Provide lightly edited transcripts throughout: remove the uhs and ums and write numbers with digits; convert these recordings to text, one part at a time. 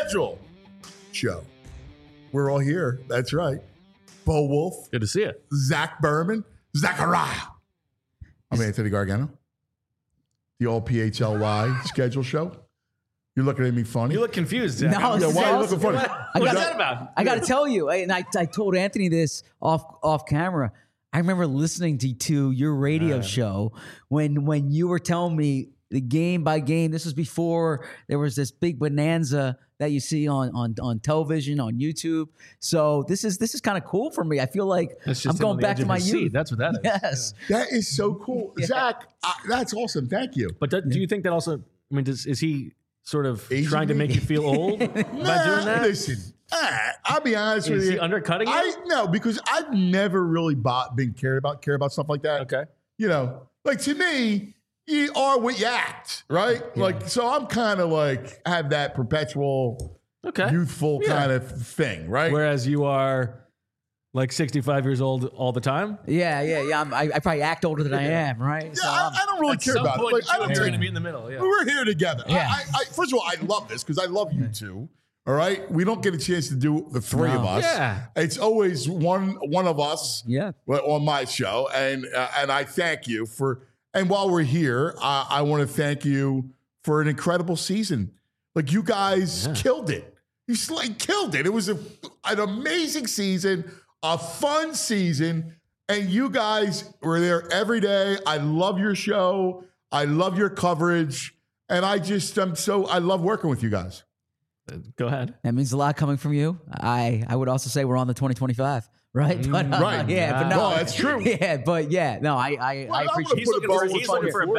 schedule show. We're all here. That's right. Bo Wolf, Good to see you. Zach Berman, Zachariah. I'm Anthony Gargano. The all PHLY schedule show. You're looking at me funny. You look confused, Zach. No, Yeah, why are you looking funny? What's that about? I got to tell you, and I told Anthony this off camera. I remember listening to your radio show when you were telling me the game by game. This was before there was this big bonanza that you see on television, on YouTube. So this is kind of cool for me. I feel like I'm going back to my youth. That's what that is. Yes. That is so cool. Zach, that's awesome. Thank you. But do you think that also, I mean, is he sort of Aging trying to me? make you feel old by doing that? Listen, I'll be honest with Is you. he undercutting you? No, because I've never really care about stuff like that. Okay. You know, like to me, you are what you act, right? Yeah. Like, so I'm kind of like have that perpetual, youthful kind of thing, right? Whereas you are like 65 years old all the time. Yeah. I probably act older than I am, right? Yeah, So I don't really At care some about point, it. Like, I don't you're going to take, be in the middle. Yeah. we're here together. Yeah. First of all, I love this because I love you two. All right, we don't get a chance to do the three of us. Yeah. It's always one of us. Yeah. On my show, and I thank you for. And while we're here, I want to thank you for an incredible season. Like you guys killed it. You killed it. It was an amazing season, a fun season, and you guys were there every day. I love your show. I love your coverage, and I love working with you guys. Go ahead. that means a lot coming from you. I would also say we're on the 2025 right? But, right. Yeah, but no. No, that's true. Yeah, but yeah, no, I appreciate He's looking for, He's looking for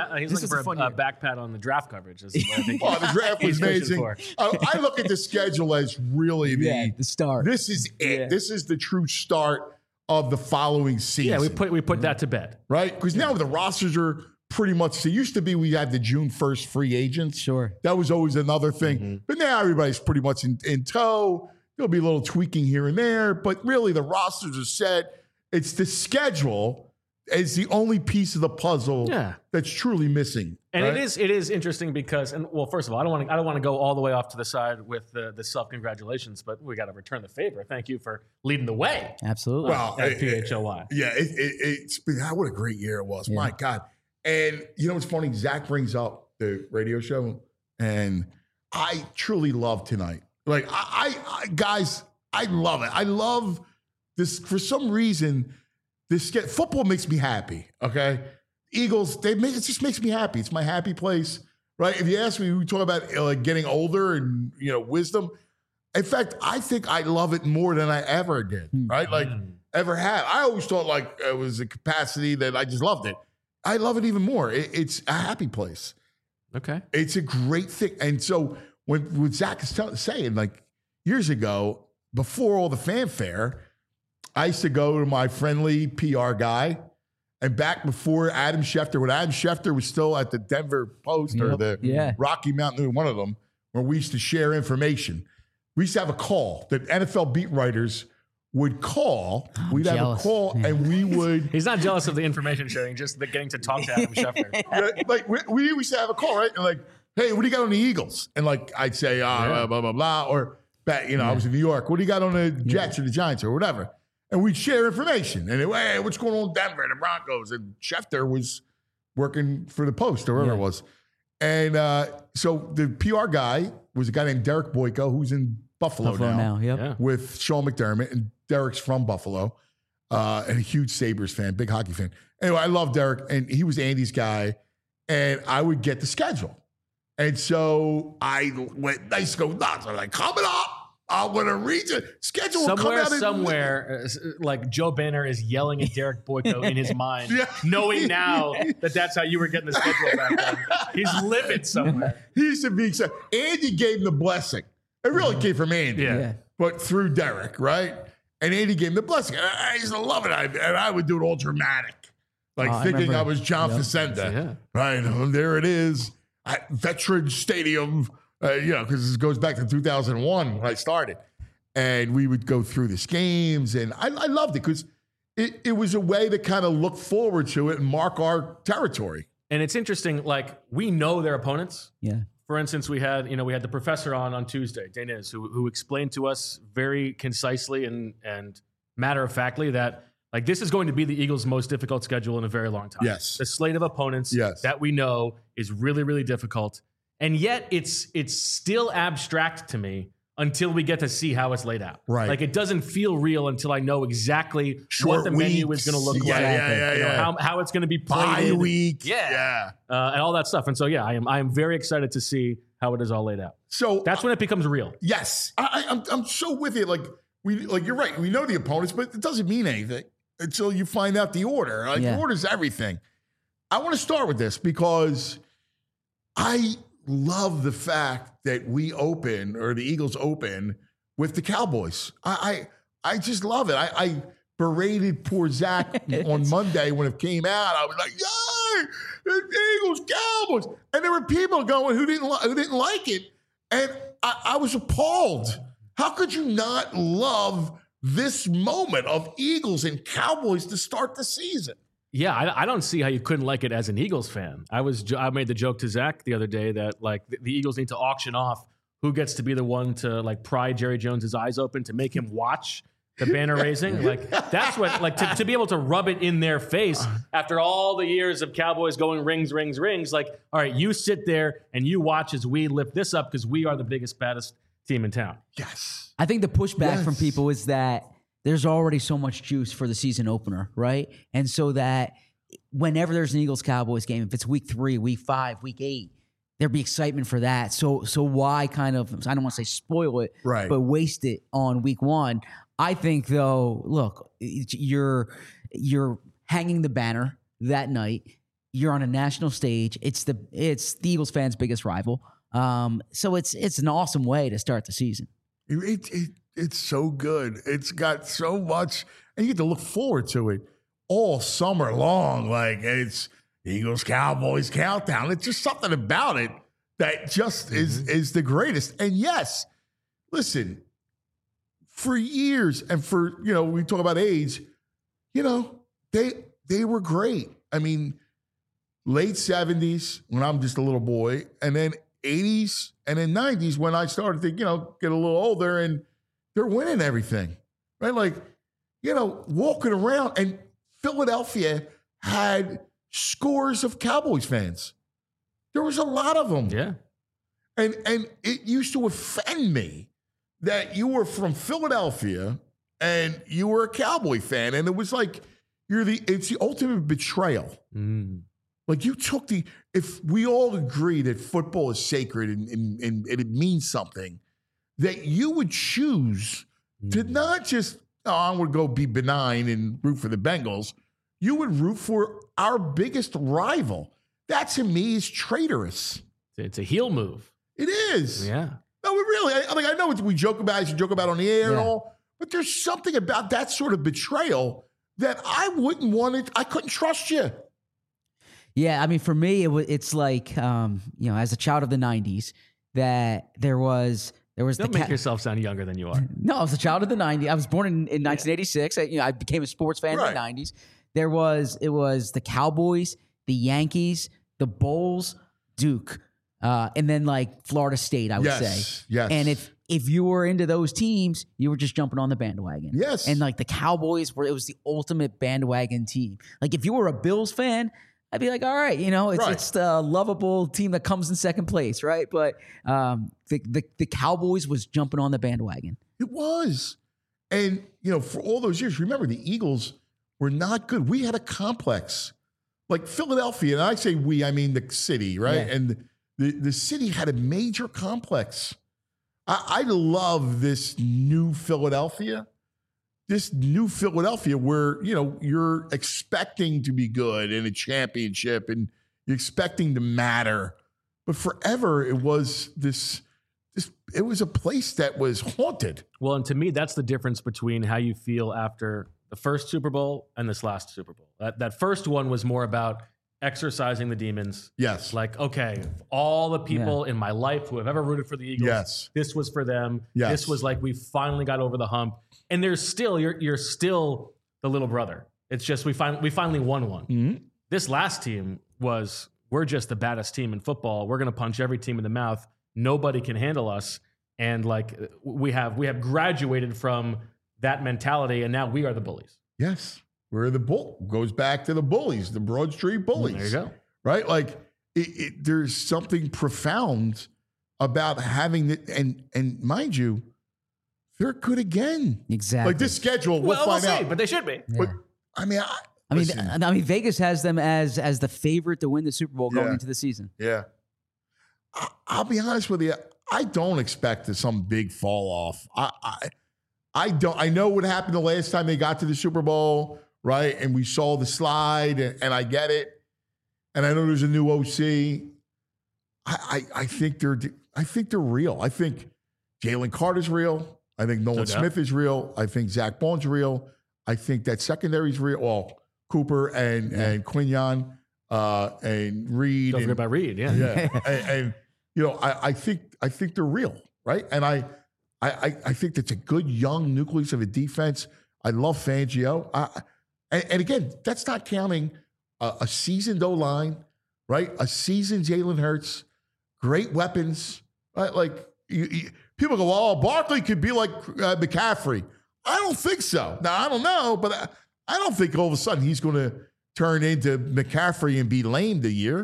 a back pat on the draft coverage. Is what I think Well, the draft was he's pushing amazing. for. I look at the schedule as really the start. This is it. Yeah. This is the true start of the following season. Yeah, we put that to bed. right? Because now the rosters are pretty much. It used to be we had the June 1st free agents. Sure. That was always another thing. But now everybody's pretty much in tow. There'll be a little tweaking here and there, but really the rosters are set. It's the schedule is the only piece of the puzzle that's truly missing. And right? it is interesting because, first of all, I don't want to go all the way off to the side with the self congratulations, but we got to return the favor. Thank you for leading the way. Absolutely. Well, At PHLY. Yeah, it's been what a great year it was. Yeah. My God. And you know what's funny? Zach brings up the radio show, and I truly love tonight. Like I guys, I love it. I love this for some reason. Football makes me happy. Okay, Eagles. It just makes me happy. It's my happy place, right? If you ask me, we talk about like getting older and wisdom. In fact, I think I love it more than I ever did. Right, like ever have. I always thought like it was a capacity that I just loved it. I love it even more. It's a happy place. Okay. It's a great thing. And so when Zach is saying, like years ago, before all the fanfare, I used to go to my friendly PR guy. And back before Adam Schefter, when Adam Schefter was still at the Denver Post or the Rocky Mountain, one of them, where we used to share information. We used to have a call that NFL beat writers would call. We'd have a call, and we would. He's not jealous of the information sharing, just the getting to talk to Adam Schefter. Like we used to have a call, right? And like, hey, what do you got on the Eagles? And like, I'd say, blah blah blah, or I was in New York. What do you got on the Jets or the Giants or whatever? And we'd share information. And hey, what's going on in Denver, the Broncos? And Schefter was working for the Post or wherever it was. And so the PR guy was a guy named Derek Boyko, who's in Buffalo now. With Sean McDermott, and Derek's from Buffalo, and a huge Sabres fan, big hockey fan. Anyway, I love Derek, and he was Andy's guy, and I would get the schedule. And so I went, nice go nuts. I'm like, coming up, I'm going to read the schedule. Somewhere, like Joe Banner is yelling at Derek Boyko in his mind, knowing now that that's how you were getting the schedule back then. He's livid somewhere. He used to be, Andy gave him the blessing. It really came from Andy, but through Derek, right? And Andy gave him the blessing. I used to love it. And I would do it all dramatic, like thinking I was John Facenda. Right, there it is. Veterans Stadium, because this goes back to 2001 when I started. And we would go through these games. And I loved it because it was a way to kind of look forward to it and mark our territory. And it's interesting, like, we know their opponents For instance, we had the professor on Tuesday, Daniz, who explained to us very concisely and matter of factly that like this is going to be the Eagles' most difficult schedule in a very long time. Yes. The slate of opponents that we know is really, really difficult. And yet it's still abstract to me until we get to see how it's laid out. Right. Like it doesn't feel real until I know exactly what the menu is going to look like. How it's going to be played. Bye week. And all that stuff. And so, I am very excited to see how it is all laid out. So that's when it becomes real. Yes. I'm so with you. Like you're right. We know the opponents, but it doesn't mean anything until you find out the order. Like the order's everything. I want to start with this because I love the fact that we open, or the Eagles open, with the Cowboys. I just love it. I berated poor Zach on Monday when it came out. I was like, yay, the Eagles, Cowboys. And there were people going who didn't like it. And I was appalled. How could you not love this moment of Eagles and Cowboys to start the season? Yeah, I don't see how you couldn't like it as an Eagles fan. I made the joke to Zach the other day that like the Eagles need to auction off who gets to be the one to like pry Jerry Jones's eyes open to make him watch the banner raising. Like that's what like to be able to rub it in their face after all the years of Cowboys going rings. Like, all right, you sit there and you watch as we lift this up because we are the biggest, baddest team in town. Yes. I think the pushback from people is that there's already so much juice for the season opener, right? And so that whenever there's an Eagles-Cowboys game, if it's week 3, week 5, week 8, there'd be excitement for that. So why kind of, I don't want to say spoil it, but waste it on week 1? I think, though, look, you're hanging the banner that night. You're on a national stage. It's the Eagles fans' biggest rival. So it's an awesome way to start the season. It's so good. It's got so much, and you get to look forward to it all summer long. Like it's Eagles Cowboys countdown. It's just something about it that just is the greatest. And yes, listen, for years and for we talk about age, they were great. I mean, late 70s when I'm just a little boy, and then 80s and then 90s when I started to get a little older, and they're winning everything, right? Like, walking around, and Philadelphia had scores of Cowboys fans. There was a lot of them. Yeah. And it used to offend me that you were from Philadelphia and you were a Cowboy fan. And it was like, it's the ultimate betrayal. Mm. Like you took if we all agree that football is sacred and it means something, that you would choose to not just, I'm going to go be benign and root for the Bengals. You would root for our biggest rival. That to me is traitorous. It's a heel move. It is. Yeah. No, I know we joke about it, you joke about it on the air and all, but there's something about that sort of betrayal that I wouldn't want it. I couldn't trust you. Yeah, I mean, for me, it's like, as a child of the 90s, that there was Don't make yourself sound younger than you are. No, I was a child of the 90s. I was born in 1986. I became a sports fan in the 90s. It was the Cowboys, the Yankees, the Bulls, Duke, and then like Florida State, I would say. Yes. And if you were into those teams, you were just jumping on the bandwagon. Yes. And like the Cowboys it was the ultimate bandwagon team. Like if you were a Bills fan, I'd be like, all right, it's the lovable team that comes in second place, right? But the Cowboys was jumping on the bandwagon. It was. And, for all those years, remember the Eagles were not good. We had a complex. Like Philadelphia, and I say we, I mean the city, right? Yeah. And the city had a major complex. I love this new Philadelphia. This new Philadelphia where, you're expecting to be good in a championship and you're expecting to matter. But forever it was it was a place that was haunted. Well, and to me, that's the difference between how you feel after the first Super Bowl and this last Super Bowl. That first one was more about exercising the demons. Yes. Like, okay, all the people in my life who have ever rooted for the Eagles, this was for them. Yes. This was like we finally got over the hump. And there's still you're still the little brother. It's just we finally won one. Mm-hmm. This last team was we're just the baddest team in football. We're going to punch every team in the mouth. Nobody can handle us. And like we have graduated from that mentality, and now we are the bullies. Yes. We're the bull. Goes back to the bullies, the Broad Street bullies. There you go. Right? Like there's something profound about having it. And mind you, they're good again. Exactly. Like this schedule, we'll find see, out. but they should be. But, I mean, Vegas has them as the favorite to win the Super Bowl going Yeah. into the season. Yeah. I'll be honest with you. I don't expect some big fall off. I don't. I know what happened the last time they got to the Super Bowl, right? And we saw the slide, and I get it. And I know there's a new OC. I think they're real. I think Jalen Carter's real. I think Nolan Smith is real. I think Zach Bond's real. I think that secondary's real. Well, Cooper and Quinyon and Reed. Don't forget about Reed. Yeah. Yeah. and you know, I think they're real, right? And I think that's a good young nucleus of a defense. I love Fangio. And again, that's not counting a seasoned O-line, right? A seasoned Jalen Hurts, great weapons, right? Like people go, oh, Barkley could be like McCaffrey. I don't think so. Now, I don't know, but I don't think all of a sudden he's going to turn into McCaffrey and be lame the year.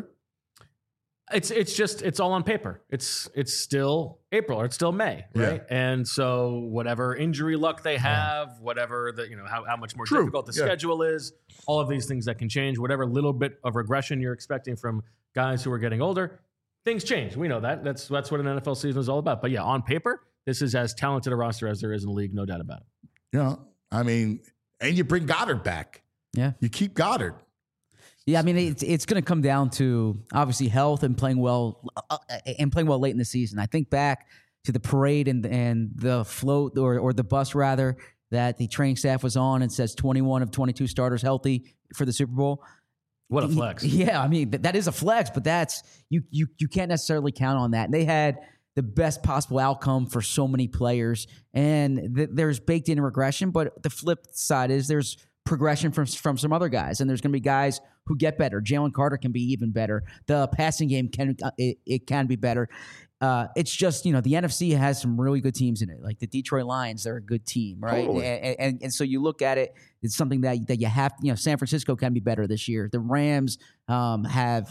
It's all on paper. It's still April or it's still May, right? Yeah. And so whatever injury luck they have, whatever how much more difficult the schedule is, all of these things that can change, whatever little bit of regression you're expecting from guys who are getting older, things change. We know that. That's what an NFL season is all about. But yeah, on paper, this is as talented a roster as there is in the league, no doubt about it. Yeah, I mean, and you bring Goddard back. Yeah, you keep Goddard. Yeah, I mean, it's going to come down to obviously health and playing well late in the season. I think back to the parade and the float or the bus rather that the training staff was on and says 21 of 22 starters healthy for the Super Bowl. What a flex! Yeah, I mean that is a flex, but that's you can't necessarily count on that. And they had the best possible outcome for so many players, and there's baked in regression. But the flip side is there's progression from some other guys, and there's going to be guys who get better. Jalen Carter can be even better. The passing game can be better. It's just, the NFC has some really good teams in it. Like the Detroit Lions, they're a good team, right? Totally. And so you look at it, it's something that you have. San Francisco can be better this year. The Rams have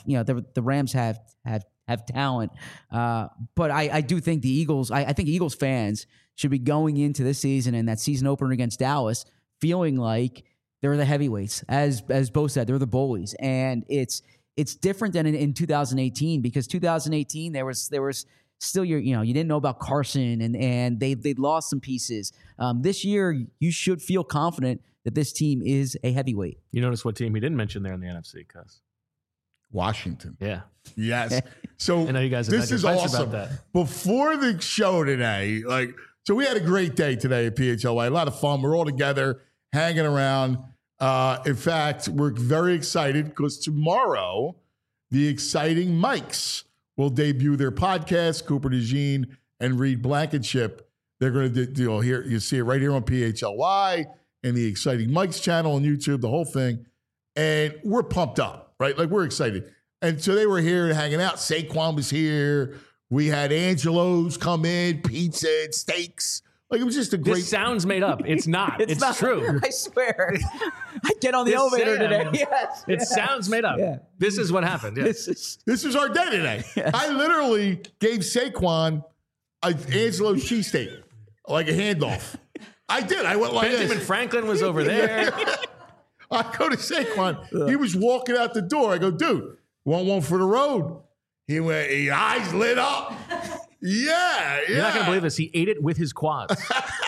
talent, but I do think the Eagles. I think Eagles fans should be going into this season and that season opener against Dallas feeling like they're the heavyweights, as Bo said, they're the bullies, and it's different than in 2018 because 2018 there was still you didn't know about Carson and they lost some pieces. This year you should feel confident that this team is a heavyweight. You notice what team he didn't mention there in the NFC, Cuz? Washington. Yeah. Yes. So I know you guys. This is awesome. About that. Before the show today, so we had a great day today at PHLY. A lot of fun. We're all together, hanging around. In fact, we're very excited because tomorrow, the Exciting Mics will debut their podcast. Cooper DeJean and Reed Blankenship. They're going to do here. You see it right here on PHLY and the Exciting Mics channel on YouTube, the whole thing. And we're pumped up, right? Like we're excited. And so they were here hanging out. Saquon was here. We had Angelo's come in, pizza and steaks. Like it was just a great. This sounds made up. It's not. It's not true. I swear. I get on the elevator today. Yes. It sounds made up. Yeah. This is what happened. Yeah. This is our day today. Yes. I literally gave Saquon Angelo's cheesesteak, like a handoff. I did. I went like Benjamin this. Franklin was over there. I go to Saquon. He was walking out the door. I go, dude, want one for the road? He went, his eyes lit up. Yeah. You're not going to believe this. He ate it with his quads.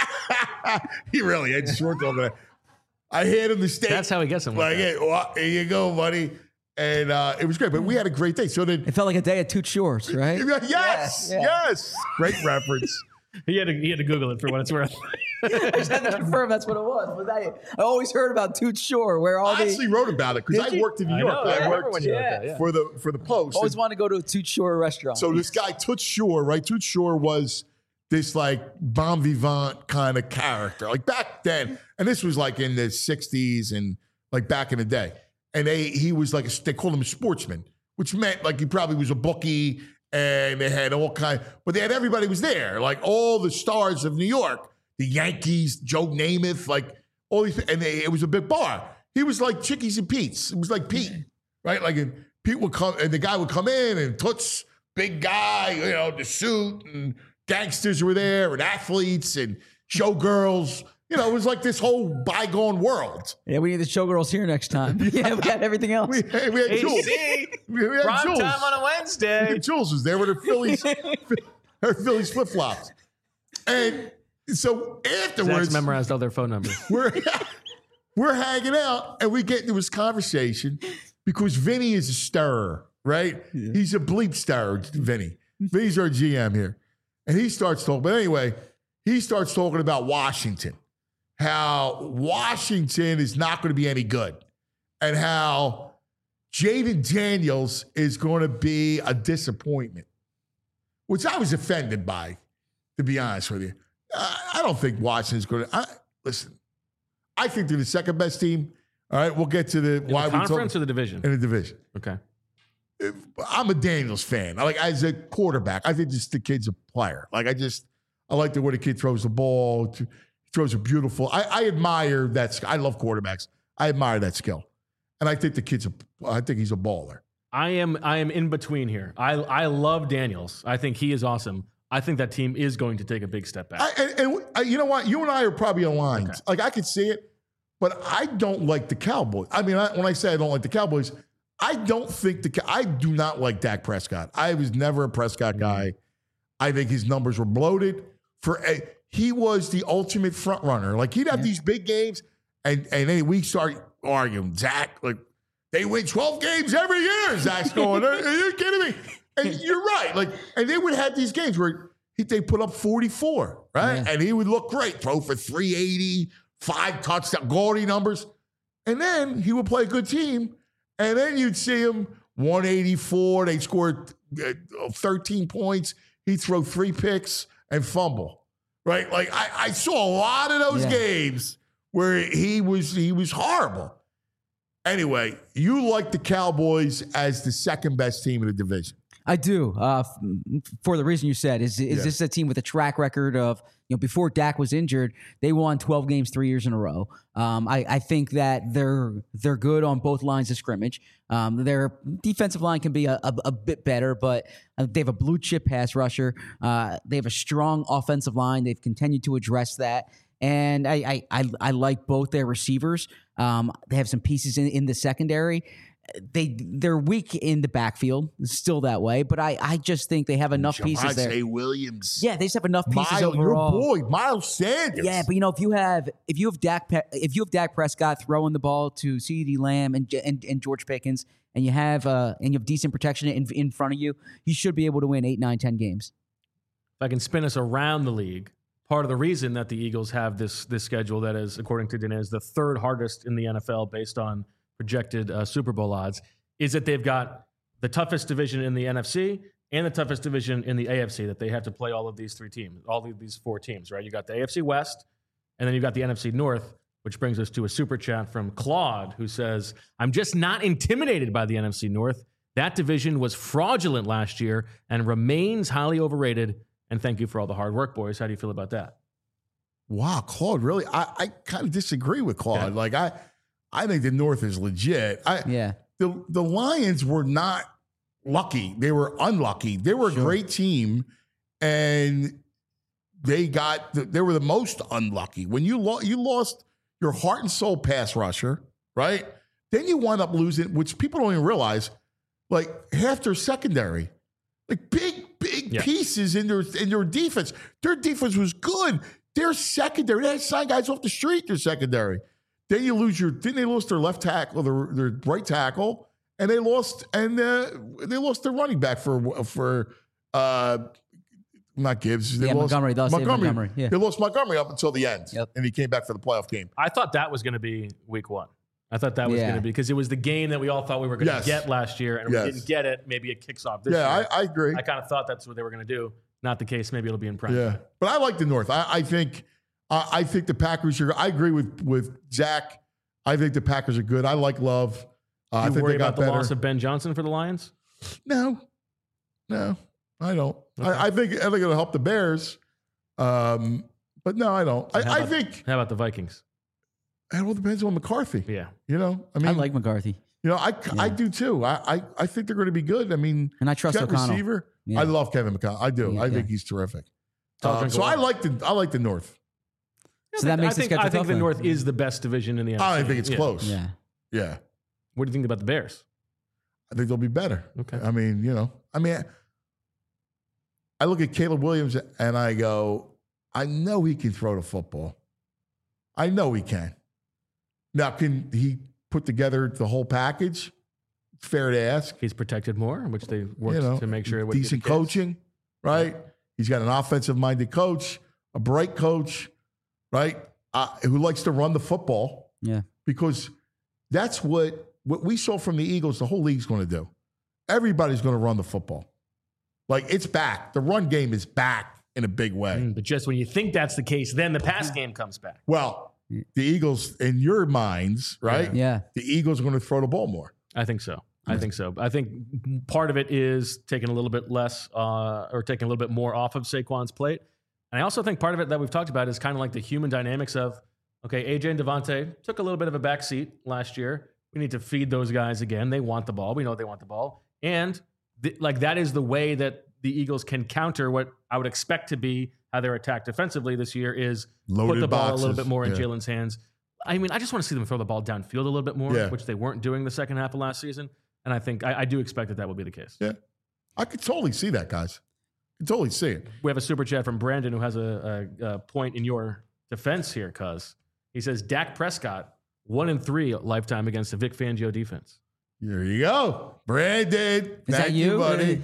He really had short over there. I handed him the steak. That's how he gets them. Like, hey, well, here you go, buddy. And it was great. But we had a great day. So then it felt like a day at Toot Shores, right? Yes. Great reference. He had to Google it for what it's worth. I just had to confirm that's what it was. I always heard about Toot Shore, where all I actually wrote about it because I worked in New York. I worked for the Post. Always wanted to go to a Toot Shore restaurant. So this guy Toot Shore, right? Toot Shore was this like bon vivant kind of character, like back then. And this was like in the 60s and like back in the day. And he was like they called him a sportsman, which meant like he probably was a bookie and they had all kind, but they had everybody was there, like all the stars of New York, the Yankees, Joe Namath, like all these, and it was a big bar. He was like Chickies and Pete's. It was like Pete, right? Like and Pete would come, and the guy would come in, and Toots, big guy, the suit, and gangsters were there, and athletes, and showgirls. It was like this whole bygone world. Yeah, we need the showgirls here next time. Yeah, we got everything else. We had Jules. We had Prime Jules. time on a Wednesday. Jules was there with her Phillies flip-flops. And so afterwards, Zach's memorized all their phone numbers. we're hanging out, and we get into this conversation because Vinny is a stirrer, right? Yeah. He's a bleep stirrer, Vinny. Vinny's our GM here. And he starts talking. But anyway, he starts talking about Washington. How Washington is not going to be any good, and how Jaden Daniels is going to be a disappointment, which I was offended by, to be honest with you. I don't think Washington's going to. Listen, I think they're the second best team. All right, we'll get to the why we conference or the division. In the division. Okay. I'm a Daniels fan. Like as a quarterback, I think just the kid's a player. Like I like the way the kid throws the ball. Throws a beautiful. I admire that. I love quarterbacks. I admire that skill, and I think I think he's a baller. I am in between here. I love Daniels. I think he is awesome. I think that team is going to take a big step back. And you know what? You and I are probably aligned. Okay. Like I could see it, but I don't like the Cowboys. I mean, when I say I don't like the Cowboys, I don't think I do not like Dak Prescott. I was never a Prescott guy. I think his numbers were bloated. He was the ultimate front runner. Like he'd have these big games, and then we start arguing. Zach, like they win 12 games every year. Zach's going, are you kidding me? And you're right. Like, and they would have these games where they put up 44, right? Yeah. And he would look great, throw for 380, 5 touchdown, gaudy numbers. And then he would play a good team, and then you'd see him 184. They'd score 13 points. He'd throw 3 picks and fumble. Right, like I saw a lot of those games where he was horrible. Anyway, you like the Cowboys as the second best team in the division. I do, for the reason you said. Is this a team with a track record of, before Dak was injured, they won 12 games 3 years in a row. I think that they're good on both lines of scrimmage. Their defensive line can be a bit better, but they have a blue chip pass rusher. They have a strong offensive line. They've continued to address that. And I like both their receivers. They have some pieces in the secondary. They're weak in the backfield, still that way, but I just think they have enough pieces there. Javonte Williams. Yeah, they just have enough pieces overall. Your boy, Miles Sanders. Yeah, but if you have Dak Prescott throwing the ball to CeeDee Lamb and George Pickens, and you have decent protection in front of you, you should be able to win 8, 9, 10 games. If I can spin us around the league, part of the reason that the Eagles have this schedule that is, according to Dinez, the third hardest in the NFL based on projected Super Bowl odds, is that they've got the toughest division in the NFC and the toughest division in the AFC, that they have to play all of these 4 teams, right? You got the AFC West, and then you've got the NFC North, which brings us to a super chat from Claude, who says, I'm just not intimidated by the NFC North. That division was fraudulent last year and remains highly overrated. And thank you for all the hard work, boys. How do you feel about that? Wow, Claude, really? I kind of disagree with Claude. Yeah. Like, I think the North is legit. The Lions were not lucky. They were unlucky. They were a great team, and they were the most unlucky. When you lost your heart and soul pass rusher, right? Then you wind up losing, which people don't even realize, like half their secondary, like big pieces in their defense. Their defense was good. Their secondary, they had signed guys off the street. Their secondary. Then you lose they lost their left tackle, their right tackle, and they lost their running back for not Gibbs. They lost Montgomery. Yeah. They lost Montgomery up until the end, and he came back for the playoff game. I thought that was going to be week 1. I thought that was going to be, because it was the game that we all thought we were going to get last year, and we didn't get it. Maybe it kicks off this year. Yeah, I agree. I kind of thought that's what they were going to do. Not the case. Maybe it'll be in prime. Yeah, but I like the North. I think the Packers are. I agree with Zach. I think the Packers are good. I like Love. I think worry about the loss of Ben Johnson for the Lions? No, I don't. Okay. I think it'll help the Bears, but no, I don't. I think. How about the Vikings? It all depends on McCarthy. Yeah, I like McCarthy. I do too. I think they're going to be good. I mean, and I trust O'Connell. Receiver. Yeah. I love Kevin McConnell. I do. I think he's terrific. So I like the North. So that makes I think the North is the best division in the NFC. I think it's close. Yeah. What do you think about the Bears? I think they'll be better. Okay. I mean, I look at Caleb Williams and I go, I know he can throw the football. I know he can. Now, can he put together the whole package? Fair to ask. He's protected more, which they worked to make sure it would decent be the case. Coaching, right? He's got an offensive-minded coach, a bright coach, right? Who likes to run the football. Yeah. Because that's what we saw from the Eagles, the whole league's going to do. Everybody's going to run the football. Like, it's back. The run game is back in a big way. But just when you think that's the case, then the pass game comes back. Well, the Eagles, in your minds, right? Yeah. The Eagles are going to throw the ball more. I think so. I think part of it is taking a little bit less or taking a little bit more off of Saquon's plate. And I also think part of it that we've talked about is kind of like the human dynamics of, okay, AJ and Devontae took a little bit of a backseat last year. We need to feed those guys again. They want the ball. We know they want the ball. And that is the way that the Eagles can counter what I would expect to be how they're attacked defensively this year is loaded put the ball boxes. A little bit more in Jalen's hands. I mean, I just want to see them throw the ball downfield a little bit more, which they weren't doing the second half of last season. And I think I do expect that will be the case. Yeah. I could totally see that, guys. I could totally see it. We have a super chat from Brandon who has a point in your defense here, cuz. He says, Dak Prescott, 1-3 lifetime against the Vic Fangio defense. There you go. Brandon. Is that you, buddy?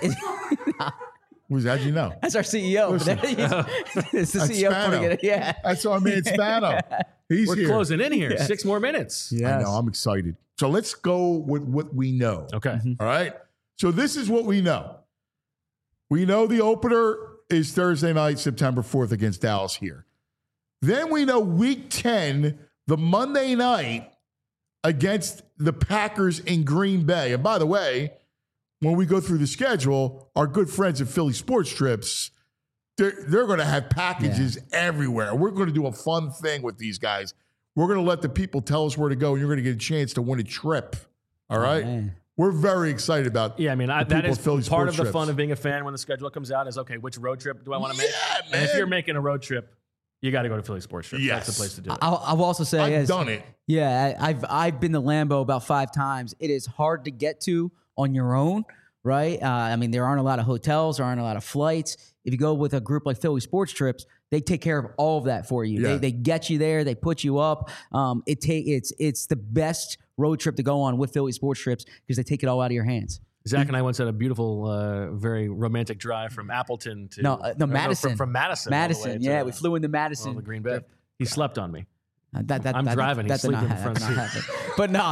How'd you know? That's our CEO. It's the CEO putting it. Yeah. That's our man Spano. We're here. Closing in here. 6 more minutes. Yes. I know. I'm excited. So let's go with what we know. Okay. Mm-hmm. All right. So this is what we know. We know the opener is Thursday night, September 4th against Dallas here. Then we know week 10, the Monday night against the Packers in Green Bay. And by the way, when we go through the schedule, our good friends at Philly Sports Trips, they're going to have packages everywhere. We're going to do a fun thing with these guys. We're going to let the people tell us where to go, and you're going to get a chance to win a trip. All right? Man. We're very excited about I mean, that is Philly part of the trips. fun of being a fan when the schedule comes out is, okay, which road trip do I want to make? Yeah, man. And if you're making a road trip, you got to go to Philly Sports Trips. Yes. That's the place to do it. I'll also say, I've done it. Yeah, I've been to Lambeau about 5 times. It is hard to get to on your own, right? I mean, there aren't a lot of hotels, there aren't a lot of flights. If you go with a group like Philly Sports Trips, they take care of all of that for you. Yeah. They get you there, they put you up. It's the best road trip to go on with Philly Sports Trips because they take it all out of your hands. Zach and I once had a beautiful, very romantic drive from Appleton to Madison. From Madison. Madison, yeah, we flew into Madison. To Green Bay. He slept on me. I'm driving. He's sleeping in the front seat. But no,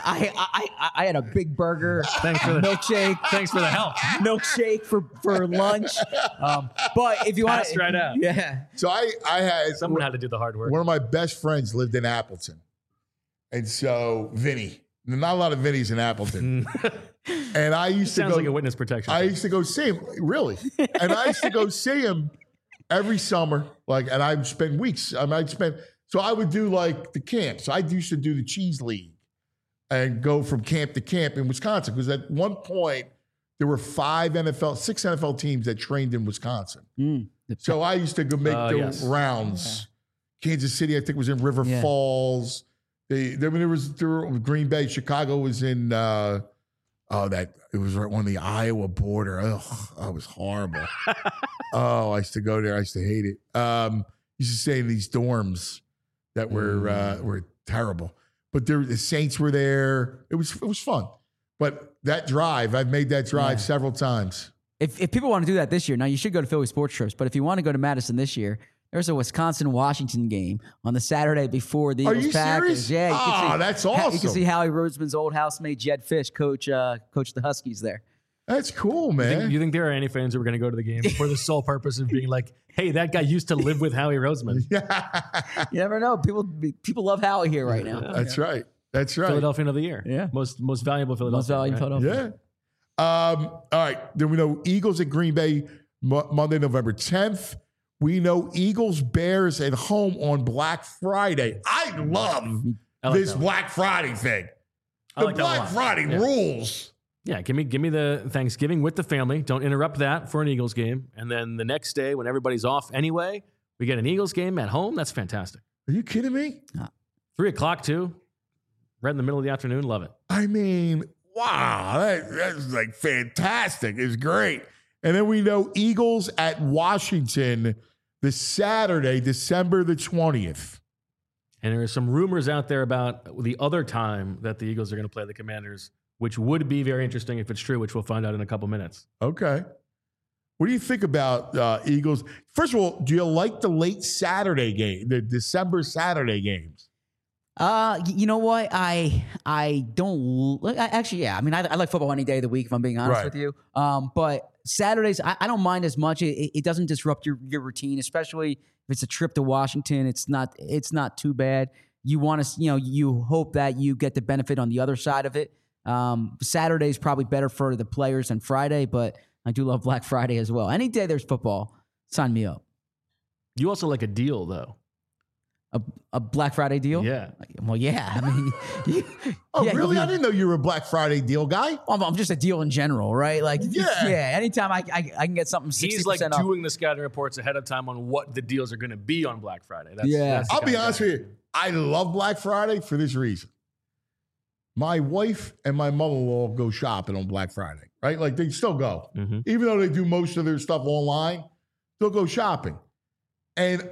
I had a big burger. Thanks for the milkshake. Thanks for the help. Milkshake for lunch. But if you want to, right out. Yeah. So I had someone had to do the hard work. One of my best friends lived in Appleton, and so Vinny. Not a lot of Vinnies in Appleton. And I used to go. Sounds like a witness protection. I used to go see him, really. And I used to go see him every summer. And I'd spend weeks. So I would do like the camps. I used to do the Cheese League and go from camp to camp in Wisconsin. Because at one point, there were 6 NFL teams that trained in Wisconsin. So I used to go make the rounds. Yeah. Kansas City, I think, was in River Falls. There was Green Bay. Chicago was in it was right on the Iowa border. Oh, that was horrible. I used to go there. I used to hate it. Used to stay in these dorms that were terrible. But the Saints were there. It was fun. But that drive, I've made that drive several times. If people want to do that this year, now you should go to Philly Sports Trips. But if you want to go to Madison this year, there's a Wisconsin-Washington game on the Saturday before the Eagles Packers. Serious? Yeah, you can see, that's awesome. You can see Howie Roseman's old housemate Jed Fish coach the Huskies there. That's cool, man. You think there are any fans who are going to go to the game for the sole purpose of being like, hey, that guy used to live with Howie Roseman? You never know. People love Howie here right now. That's right. That's right. Philadelphian of the year. Yeah. Most valuable Philadelphia. Most valuable Philadelphia. Yeah. All right. Then we know Eagles at Green Bay Monday, November 10th. We know Eagles Bears at home on Black Friday. I love this Black Friday thing. The Black Friday rules. Yeah, give me the Thanksgiving with the family. Don't interrupt that for an Eagles game. And then the next day, when everybody's off anyway, we get an Eagles game at home. That's fantastic. Are you kidding me? 3 o'clock too. Right in the middle of the afternoon. Love it. I mean, wow, that's like fantastic. It's great. And then we know Eagles at Washington this Saturday, December the 20th. And there are some rumors out there about the other time that the Eagles are going to play the Commanders, which would be very interesting if it's true, which we'll find out in a couple minutes. Okay. What do you think about Eagles? First of all, do you like the late Saturday game, the December Saturday games? You know what? I don't actually. Yeah, I mean, I like football any day of the week. If I'm being honest with you, but Saturdays I don't mind as much. It doesn't disrupt your routine, especially if it's a trip to Washington. It's not too bad. You want to, you hope that you get the benefit on the other side of it. Saturday is probably better for the players than Friday, but I do love Black Friday as well. Any day there's football, sign me up. You also like a deal though. A Black Friday deal? Yeah. Well, yeah. I mean, really? I didn't know you were a Black Friday deal guy. I'm just a deal in general, right? Like, yeah. Anytime I can get something 60% He's like off. doing the scouting reports ahead of time on what the deals are going to be on Black Friday. I'll be honest with you. I love Black Friday for this reason. My wife and my mother-in-law go shopping on Black Friday, right? Like they still go. Mm-hmm. Even though they do most of their stuff online, they'll go shopping. And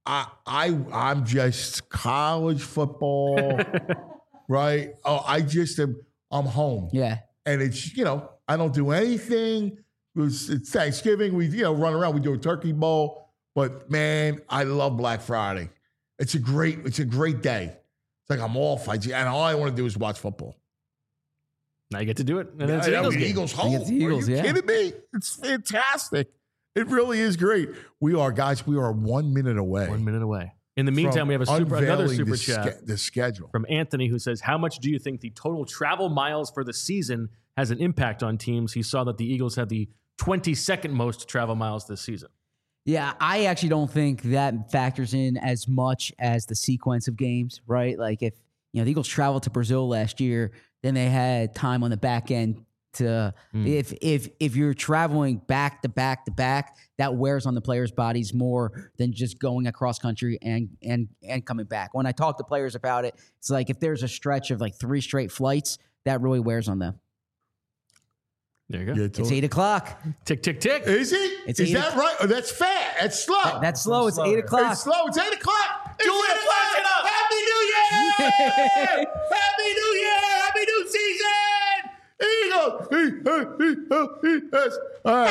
I'm just college football, right? Oh, I'm home. Yeah. And it's, I don't do anything. It's Thanksgiving. We, run around. We do a turkey bowl. But man, I love Black Friday. It's a great day. It's like I'm off. And all I want to do is watch football. Now you get to do it. And it's Eagles home. Are you kidding me? It's fantastic. It really is great. We are 1 minute away. 1 minute away. In the meantime, we have another super chat. The schedule. From Anthony, who says, how much do you think the total travel miles for the season has an impact on teams? He saw that the Eagles had the 22nd most travel miles this season. Yeah, I actually don't think that factors in as much as the sequence of games, right? Like if, the Eagles traveled to Brazil last year, then they had time on the back end to if you're traveling back to back to back, that wears on the players' bodies more than just going across country and coming back. When I talk to players about it, it's like if there's a stretch of like 3 straight flights, that really wears on them. There you go. It's 8 o'clock. Tick, tick, tick. Is it? Is that right? Oh, that's fast. That's slow. That's slow. It's 8 o'clock. It's slow. It's 8 o'clock. Julian, flash it up. Happy New Year! Happy New Year! Happy New Season! Eagles! All right,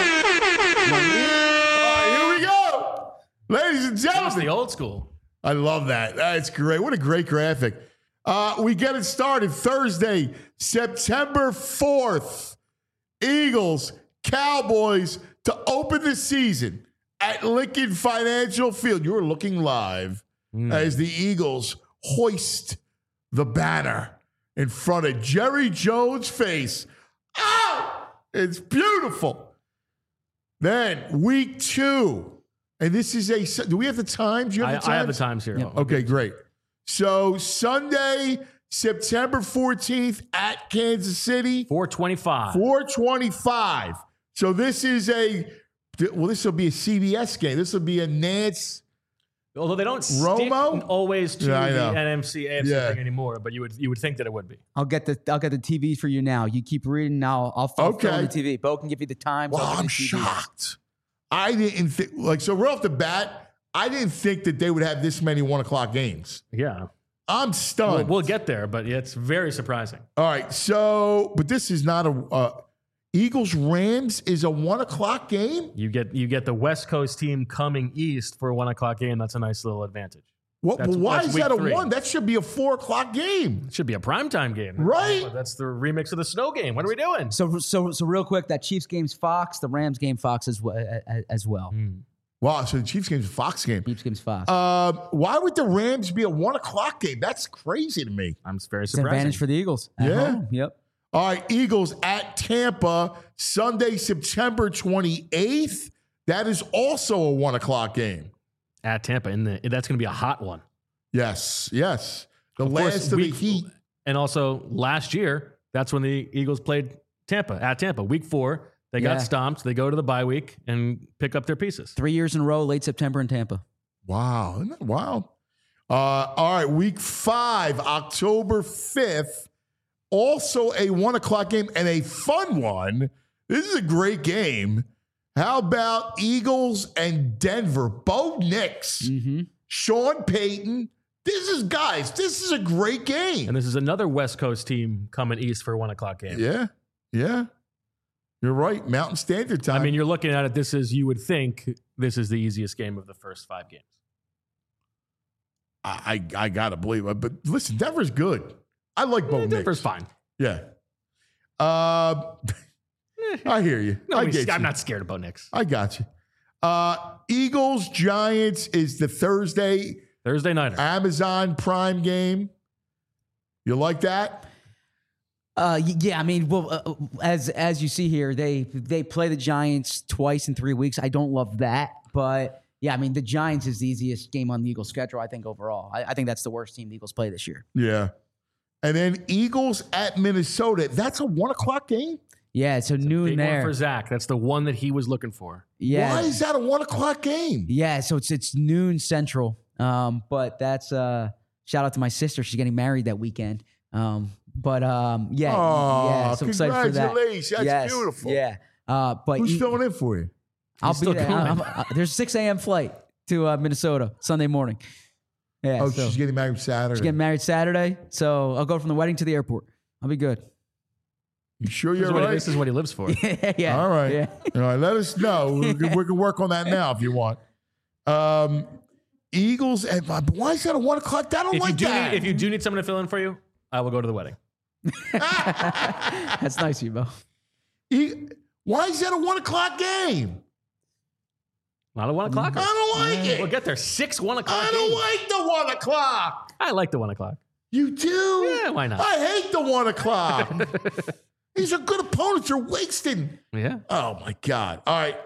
here we go. Ladies and gentlemen. That's the old school. I love that. That's great. What a great graphic. We get it started Thursday, September 4th. Eagles, Cowboys to open the season at Lincoln Financial Field. You're looking live as the Eagles hoist the banner in front of Jerry Jones' face. Oh, it's beautiful. Then week 2. And this is do we have the times? You have the times? I have the times here. Yep. Okay, great. So Sunday, September 14th at Kansas City. 4:25. 4:25. So this is this will be a CBS game. This will be a Nance. Although they don't Romo? stick always to the NMC AFC thing anymore, but you would think that it would be. I'll get the TV for you now. You keep reading now. I'll fill in the TV. Bo can give you the times. Well, I'm shocked. I didn't think so right off the bat, I didn't think that they would have this many 1 o'clock games. Yeah. I'm stunned. We'll get there, but it's very surprising. All right. So, but this is not a Eagles Rams is a 1 o'clock game. You get the West Coast team coming east for a 1 o'clock game. That's a nice little advantage. Why is that a 3. 1? That should be a 4 o'clock game. It should be a primetime game, right? That's the remix of the snow game. What are we doing? So real quick, that Chiefs game's Fox, the Rams game Fox as well. Wow, so the Chiefs game's a Fox game. Chiefs game's Fox. Why would the Rams be a 1 o'clock game? That's crazy to me. I'm very It's surprised. an advantage for the Eagles. At home. Yep. All right, Eagles at Tampa, Sunday, September 28th. That is also a 1 o'clock game. At Tampa, and that's going to be a hot one. Yes, yes. The Of course, last of the Heat. And also last year, that's when the Eagles played at Tampa. Week 4, they got stomped. They go to the bye week and pick up their pieces. 3 years in a row, late September in Tampa. Wow, isn't that wild? All right, week 5, October 5th, also a 1 o'clock game and a fun one. This is a great game. How about Eagles and Denver? Bo Nix, Sean Payton. This is a great game. And this is another West Coast team coming east for a 1 o'clock game. Yeah. You're right. Mountain Standard Time. I mean, you're looking at it. You would think this is the easiest game of the first 5 games. I got to believe it. But listen, Denver's good. I like Bo Nix. Denver's fine. Yeah. I hear you. I'm not scared of Bo Nix. I got you. Eagles Giants is the Thursday nighter. Amazon Prime game. You like that? Yeah, I mean, well, as you see here, they play the Giants twice in 3 weeks. I don't love that, but yeah, I mean, the Giants is the easiest game on the Eagles schedule, I think, overall. I think that's the worst team the Eagles play this year. Yeah. And then Eagles at Minnesota. That's a 1 o'clock game? Yeah, it's noon big there. one for Zach. That's the one that he was looking for. Yeah. Why is that a 1 o'clock game? Yeah, so it's noon Central. But that's shout out to my sister. She's getting married that weekend. So excited for that. Congratulations. That's beautiful. Yeah. But who's filling in for you? I'll be there. There's a 6 a.m. flight to Minnesota Sunday morning. Yeah. Oh, so she's getting married Saturday. she's getting married Saturday. So I'll go from the wedding to the airport. I'll be good. You sure you're right? This is what he lives for. Yeah. All right. Yeah. All right. Let us know. We can work on that now if you want. Eagles and why is that a 1 o'clock? I don't like that. If you do need someone to fill in for you, I will go to the wedding. That's nice of you, Bo. Why is that a 1 o'clock game? Not a 1 o'clock. I don't like it. We'll get there. 6 1 o'clock. I don't like the 1 o'clock. I like the 1 o'clock. You do? Yeah, why not? I hate the 1 o'clock. These are good opponents. You're wasting. Yeah. Oh my God. All right.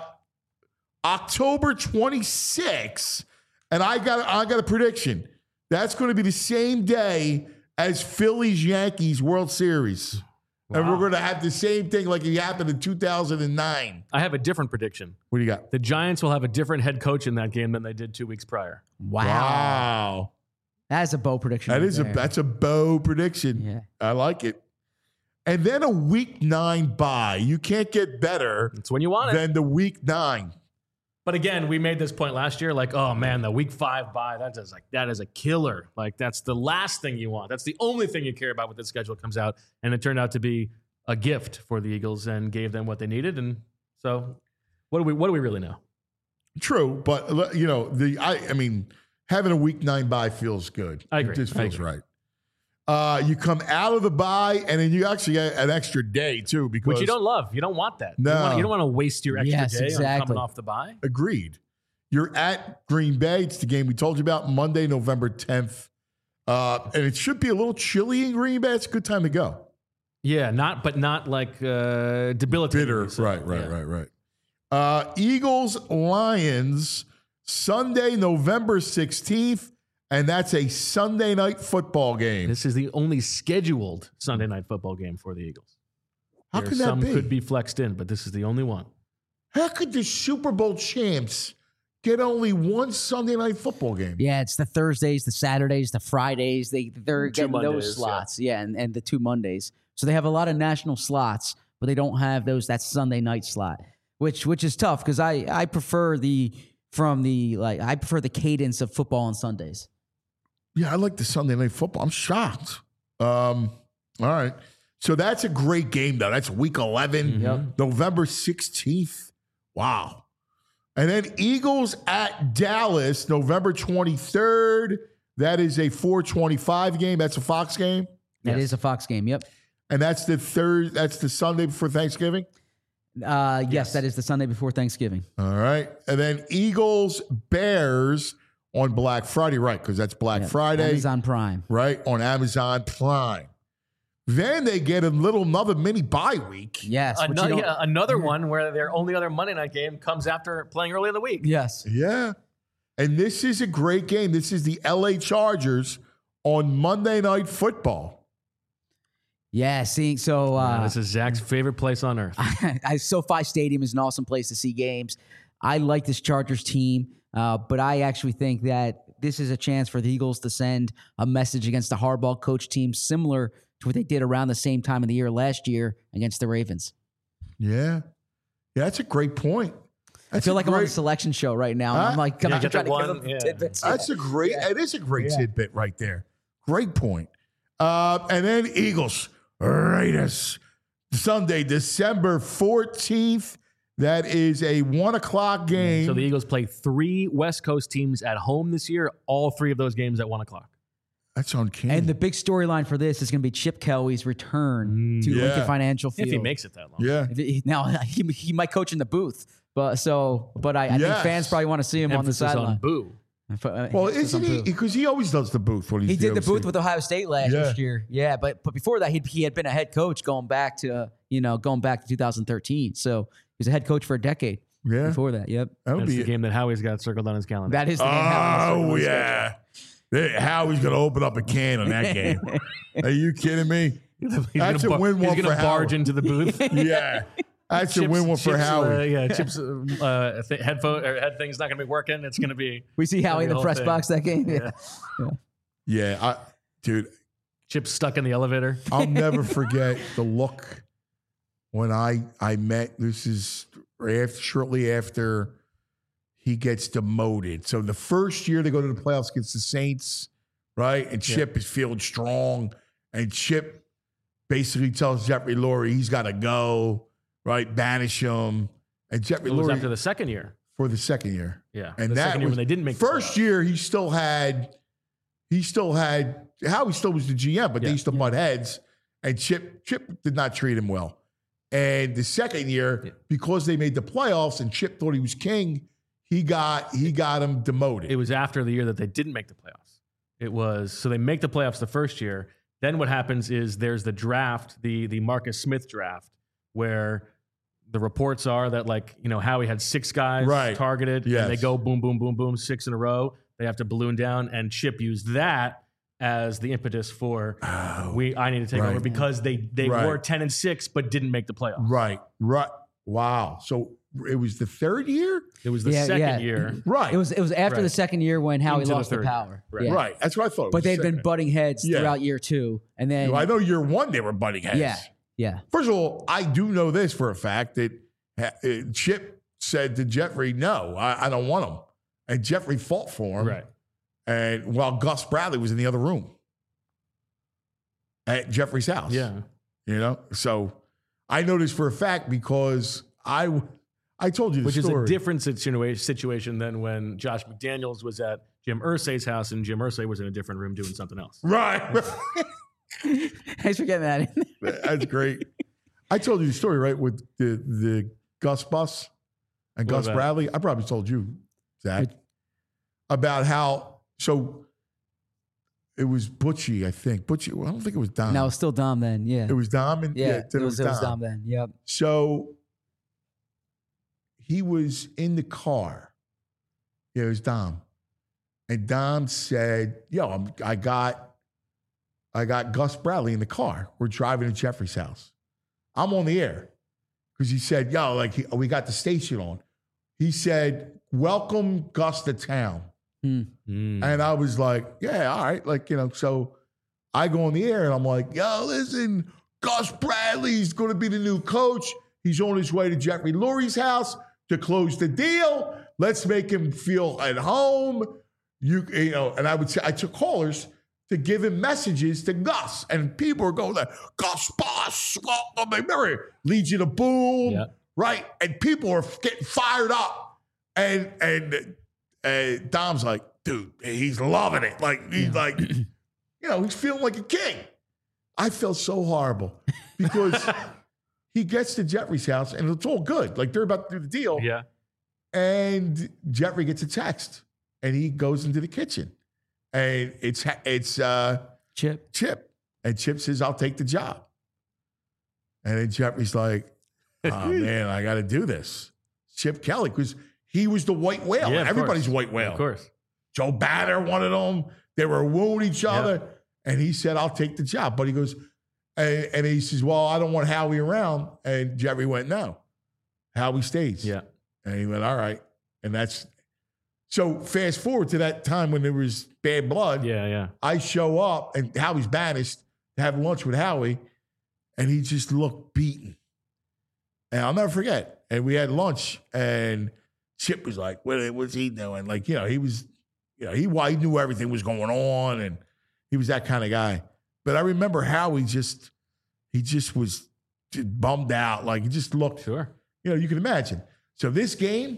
October 26th, and I got a prediction. That's going to be the same day as Phillies Yankees World Series. Wow. And we're going to have the same thing like it happened in 2009. I have a different prediction. What do you got? The Giants will have a different head coach in that game than they did 2 weeks prior. Wow. That's a Bo prediction. That's a Bo prediction. Yeah. I like it. And then a week 9 bye. You can't get better. That's when you want it. Than the week 9. But again, we made this point last year, like, oh man, the week 5 bye, that is a killer. Like, that's the last thing you want. That's the only thing you care about when the schedule comes out. And it turned out to be a gift for the Eagles and gave them what they needed. And so what do we really know? True, but I mean, having a week 9 bye feels good. I agree. It just feels right. You come out of the bye, and then you actually get an extra day too, because which you don't love. You don't want that. No, you don't want to waste your extra day on coming off the bye. Agreed. You're at Green Bay. It's the game we told you about, Monday, November 10th, and it should be a little chilly in Green Bay. It's a good time to go. Yeah, not like debilitating. Bitter. Right. Eagles Lions Sunday, November 16th. And that's a Sunday night football game. This is the only scheduled Sunday night football game for the Eagles. How could that be? Some could be flexed in, but this is the only one. How could the Super Bowl champs get only one Sunday night football game? Yeah, it's the Thursdays, the Saturdays, the Fridays. They're getting those slots. Yeah, and the 2 Mondays. So they have a lot of national slots, but they don't have that Sunday night slot, which is tough because I prefer the cadence of football on Sundays. Yeah, I like the Sunday night football. I'm shocked. All right. So that's a great game, though. That's week 11, November 16th. Wow. And then Eagles at Dallas, November 23rd. That is a 4:25 game. That's a Fox game. That is a Fox game, yep. And that's the Sunday before Thanksgiving? Yes, that is the Sunday before Thanksgiving. All right. And then Eagles, Bears on Black Friday, right? Because that's Black Friday. Amazon Prime. Right, on Amazon Prime. Then they get another mini bye week. Yes. which you don't- Another one where their only other Monday night game comes after playing early in the week. Yes. Yeah. And this is a great game. This is the LA Chargers on Monday Night Football. Yeah. See, so This is Zach's favorite place on earth. SoFi Stadium is an awesome place to see games. I like this Chargers team, but I actually think that this is a chance for the Eagles to send a message against the Harbaugh coach team similar to what they did around the same time of the year last year against the Ravens. Yeah. Yeah, that's a great point. I feel like I'm on a selection show right now. And I'm like, I'm Yeah, trying to get give that them one, tidbits. That's a great, it is a great tidbit right there. Great point. And then Eagles, Raiders, Sunday, December 14th. That is a 1:00 game. So the Eagles play 3 West Coast teams at home this year. All 3 of those games at 1:00. That's uncanny. And the big storyline for this is going to be Chip Kelly's return to Yeah. Lincoln Financial Field. If he makes it that long. yeah. Now he might coach in the booth, but I think Yes. fans probably want to see him Emphasis on the sideline. on boo. Well, Emphasis isn't on he? booth. Because he always does the booth when he's He did the booth OC. with Ohio State last Yeah. year. Yeah, but before that, he had been a head coach going back to 2013. So he was a head coach for a decade. Yeah. Before that, yep. That would That's be the game that Howie's got circled on his calendar. That is the game. Oh, yeah. Howie's going to open up a can on that game. Are you kidding me? That's a win He's one going for to barge Howard. into the booth. Yeah. That's a win one for Howard. Chip's head thing's not going to be working. It's going to be We see Howie in the whole press thing. box that game. Yeah. Yeah. Dude, Chip's stuck in the elevator. I'll never forget the look when I met. This is shortly after he gets demoted. So the first year they go to the playoffs against the Saints, right? And Chip is feeling strong. And Chip basically tells Jeffrey Lurie he's got to go, right? Banish him. And Jeffrey It was Lurie after the second year. for the second year. Yeah. And the that second year was, when they didn't make the first playoffs. year he still had Howie still was the GM, but they used to butt heads, and Chip did not treat him well. And the second year, because they made the playoffs and Chip thought he was king, he got him demoted. It was after the year that they didn't make the playoffs. It was so they make the playoffs the first year. Then what happens is there's the draft, the Marcus Smith draft, where the reports are that Howie had 6 guys targeted, Yes. and they go boom, boom, boom, boom, 6 in a row. They have to balloon down, and Chip used that as the impetus for I need to take over because they were 10-6 but didn't make the playoffs. Right. Wow. So it was the third year? It was the second year. Right. It was after the second year when Howie Into the lost the third. power. Right. Yeah. Right. That's what I thought. But they'd been butting heads Yeah. throughout year 2. And then I know year 1 they were butting heads. Yeah. First of all, I do know this for a fact that Chip said to Jeffrey, no, I don't want him. And Jeffrey fought for him. Right. And while Gus Bradley was in the other room at Jeffrey's house. Yeah. So I know this for a fact because I told you the Which story. is a different situation than when Josh McDaniels was at Jim Irsay's house and Jim Irsay was in a different room doing something else. Right. Thanks for getting that in. That's great. I told you the story, right, with the Gus bus and What Gus about it? Bradley. I probably told you, Zach, about how, so it was Butchie, I think. Butchie, I don't think it was Dom. No, it was still Dom then. Yeah. It was Dom. And, yeah, then it was Dom then. Yep. So he was in the car. Yeah, it was Dom. And Dom said, yo, I got Gus Bradley in the car. We're driving to Jeffrey's house. I'm on the air. Because he said, yo, we got the station on. He said, welcome Gus to town. And I was like, yeah, all right. So I go on the air and I'm like, yo, listen, Gus Bradley's going to be the new coach. He's on his way to Jeffrey Lurie's house to close the deal. Let's make him feel at home. And I would say, I took callers to give him messages to Gus. And people were going like, Gus Boss, welcome. Remember, Legion of Boom, right? And people are getting fired up. And Dom's like, dude, he's loving it. He's feeling like a king. I felt so horrible because he gets to Jeffrey's house and it's all good. Like they're about to do the deal. Yeah. And Jeffrey gets a text and he goes into the kitchen and it's Chip. And Chip says, I'll take the job. And then Jeffrey's like, oh, man, I got to do this. Chip Kelly, because he was the white whale. Yeah, Everybody's white whale. Of course. Joe Banner wanted them. They were wooing each other. And he said, I'll take the job. But he goes, and he says, well, I don't want Howie around. And Jeffrey went, no. Howie stays. Yeah. And he went, all right. And that's, so fast forward to that time when there was bad blood. Yeah. I show up and Howie's banished to have lunch with Howie. And he just looked beaten. And I'll never forget. And we had lunch and Chip was like, what's he doing? Like, he was, he knew everything was going on and he was that kind of guy. But I remember how he just was bummed out. Like he just looked, Sure. You can imagine. So this game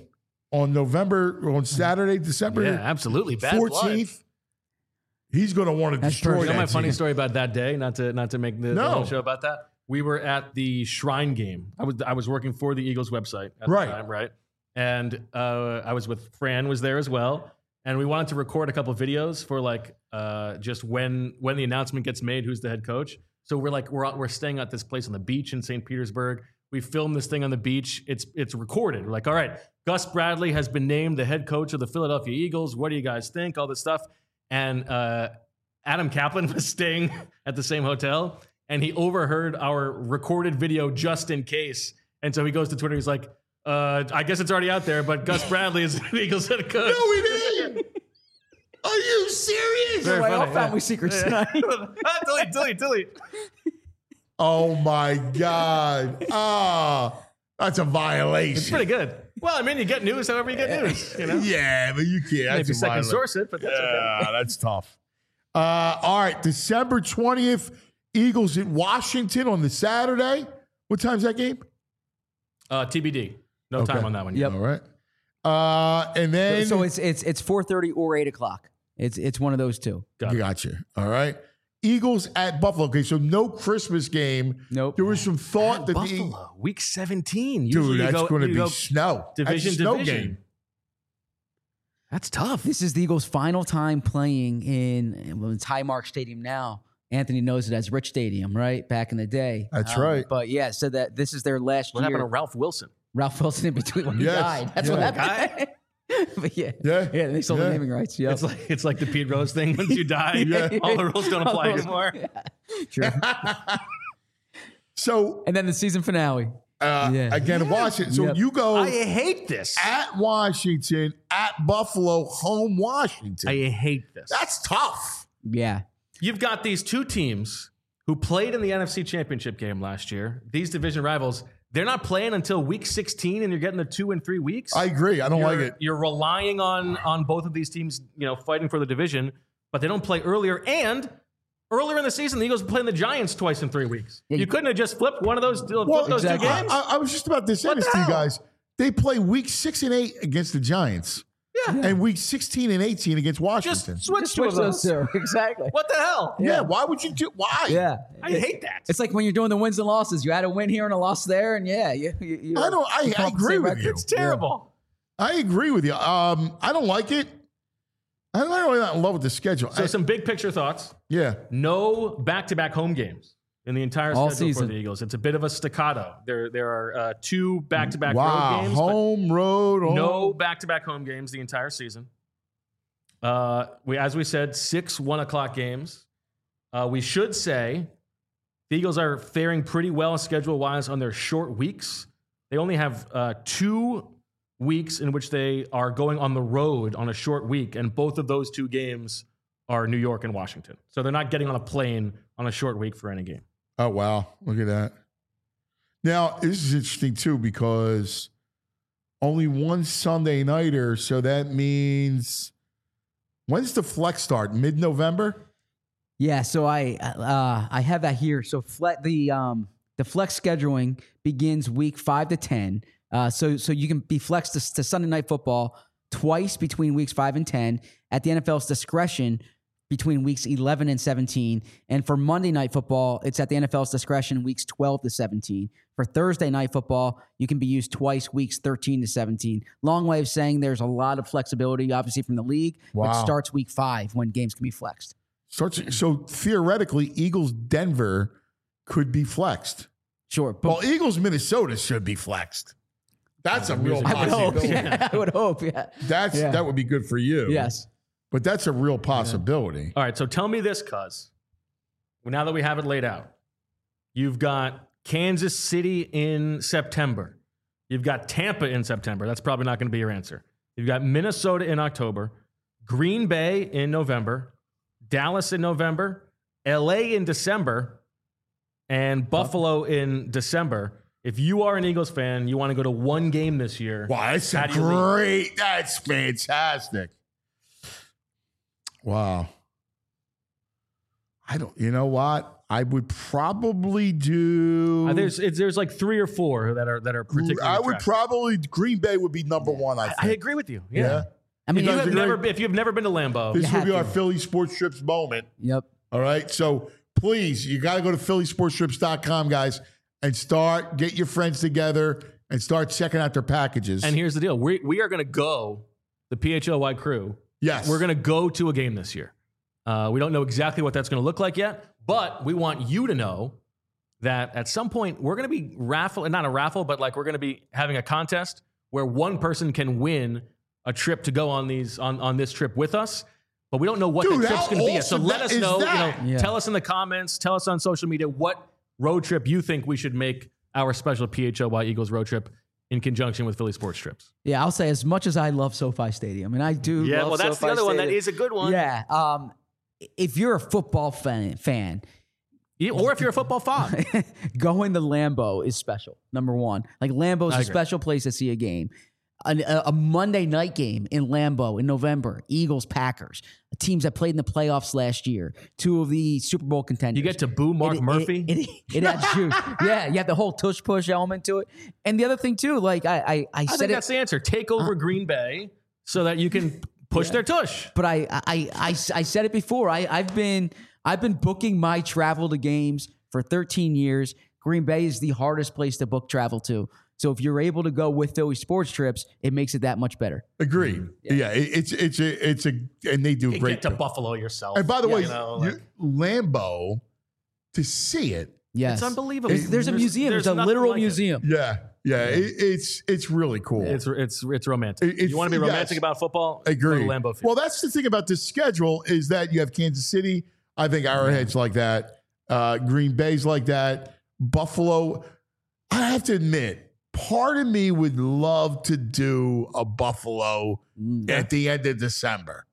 on Saturday, December absolutely. Bad 14th, blood. he's going to want to destroy You know that my funny team. story about that day, not to make the whole show about that. We were at the Shrine game. I was working for the Eagles website at the time, right? And I was with Fran was there as well, and we wanted to record a couple of videos for like just when the announcement gets made, who's the head coach. So we're staying at this place on the beach in St. Petersburg. We filmed this thing on the beach. It's recorded. We're like, all right, Gus Bradley has been named the head coach of the Philadelphia Eagles. What do you guys think? All this stuff. And Adam Kaplan was staying at the same hotel, and he overheard our recorded video just in case. And so he goes to Twitter. He's like, I guess it's already out there, but Gus Bradley is the Eagles head coach. No, he didn't. Are you serious? Very Like, all funny, family secrets tonight. delete. Oh, my God. That's a violation. It's pretty good. Well, I mean, you get news however you get news. Yeah, but you can't. That's Maybe a second violation. source it, but that's okay. Yeah, that's tough. All right, December 20th, Eagles at Washington on the Saturday. What time's that game? TBD. No time on that one. Yep. All right. And then So it's 4:30 or 8 o'clock. It's one of those two. Gotcha. All right. Eagles at Buffalo. Okay, so no Christmas game. Nope. There was some thought that Buffalo, week 17. dude, Usually that's going to be go snow. division That's a snow division. game. That's tough. This is the Eagles' final time playing it's Highmark Stadium now. Anthony knows it as Rich Stadium, right? Back in the day. That's right. But yeah, so that this is their last What year. happened to Ralph Wilson? Ralph Wilson in between when he Yes. died. That's Yeah. what happened. But yeah, Yeah. they sold Yeah. the naming rights. Yeah, It's like the Pete Rose thing. Once you die, all the rules don't apply anymore. true. So And then the season finale. again, Washington. So Yep. you go I hate this. at Washington, at Buffalo, home Washington. I hate this. That's tough. Yeah, You've got these two teams who played in the NFC Championship game last year. These division rivals, they're not playing until week 16, and you're getting the 2 and 3 weeks. I agree. I don't like it. You're relying on both of these teams, fighting for the division, but they don't play earlier. And earlier in the season, the Eagles were playing the Giants twice in 3 weeks. Yeah, you couldn't have just flipped one of those, exactly. two games. I was just about to say What this the to you hell? guys. They play week 6 and 8 against the Giants. And week 16 and 18 against Washington. Just switch just two switch of those those. two. Exactly. What the hell? yeah, why would you do? Why? Yeah, I hate that. it's like when you're doing the wins and losses. You had a win here and a loss there, and yeah, you I don't. I come up with the agree same with record. you. It's terrible. I agree with you. I don't like it. I'm not really not in love with the schedule. So some big picture thoughts. Yeah. No back-to-back home games in the entire All schedule season. for the Eagles. It's a bit of a staccato. There are 2 back-to-back road Wow. games. but Home, road, home. no back-to-back home games the entire season. As we said, 6 1:00 games. We should say the Eagles are faring pretty well schedule-wise on their short weeks. They only have 2 weeks in which they are going on the road on a short week, and both of those 2 games are New York and Washington. So they're not getting on a plane on a short week for any game. Oh, wow. Look at that. Now, this is interesting, too, because only one Sunday nighter. So that means when's the flex start? Mid-November? Yeah, so I have that here. So the flex scheduling begins week 5 to 10. So you can be flexed to Sunday Night Football twice between weeks 5 and 10 at the NFL's discretion between weeks 11 and 17. And for Monday Night Football, it's at the NFL's discretion weeks 12 to 17. For Thursday Night Football, you can be used twice weeks 13 to 17. Long way of saying there's a lot of flexibility, obviously, from the league, Wow. which starts week 5 when games can be flexed. So theoretically, Eagles Denver could be flexed. Sure. But Well, Eagles Minnesota should be flexed. That's a real I would hope. possibility. Yeah, I would hope. Yeah. That would be good for you. Yes. But that's a real possibility. All right, so tell me this, cuz. Now that we have it laid out, you've got Kansas City in September. You've got Tampa in September. That's probably not going to be your answer. You've got Minnesota in October, Green Bay in November, Dallas in November, LA in December, and Buffalo in December. If you are an Eagles fan, you want to go to one game this year. Wow, that's How do you leave? great. That's fantastic. Wow. You know what? I would probably do. There's like 3 or 4 that are particularly I would attractive. probably, Green Bay would be number one, I think. I agree with you. Yeah. Yeah. I mean, You You guys have agree? if you've never been to Lambeau, This You will be have our to. Philly Sports Trips moment. Yep. All right. So please, you got to go to phillysportstrips.com, guys, and get your friends together and start checking out their packages. and here's the deal: we are going to go. The PHLY crew. yes. We're going to go to a game this year. We don't know exactly what that's going to look like yet, but we want you to know that at some point we're going to be not a raffle, but like we're going to be having a contest where one person can win a trip to go on this trip with us. But we don't know what Dude, the trip's how going to be yet. So awesome let that- us is know. that? Yeah. Tell us in the comments. Tell us on social media what road trip you think we should make our special PHLY Eagles road trip in conjunction with Philly Sports Trips. Yeah, I'll say as much as I love SoFi Stadium, and I do. Yeah, love well, that's SoFi the other one. That Stadium. is a good one. Yeah. If you're a football fan, Or if you're a football fan. going to Lambeau is special. Number one, like Lambeau is I a agree. special place to see a game. A Monday night game in Lambeau in November, Eagles Packers, teams that played in the playoffs last year, 2 of the Super Bowl contenders. You get to boo Mark Murphy. It adds juice. Yeah, you have the whole tush push element to it. And the other thing too, like I I said think it, that's the answer. Take over Green Bay so that you can push their tush. but I said it before. I've been booking my travel to games for 13 years. Green Bay is the hardest place to book travel to. So if you're able to go with Philly Sports Trips, it makes it that much better. Agreed. Yeah, it's a, and they do You great. get to Buffalo yourself. And by the way, you know, like- Lambeau, to see it, Yes, It's unbelievable. There's a museum. There's a nothing literal like it. museum. it's really cool. It's romantic. It's- you want to be romantic yes. about football? Agree. Go to Lambeau Field. Well, that's the thing about this schedule is that you have Kansas City. I think Arrowhead's like that. Green Bay's like that. Buffalo. I have to admit, part of me would love to do a Buffalo at the end of December.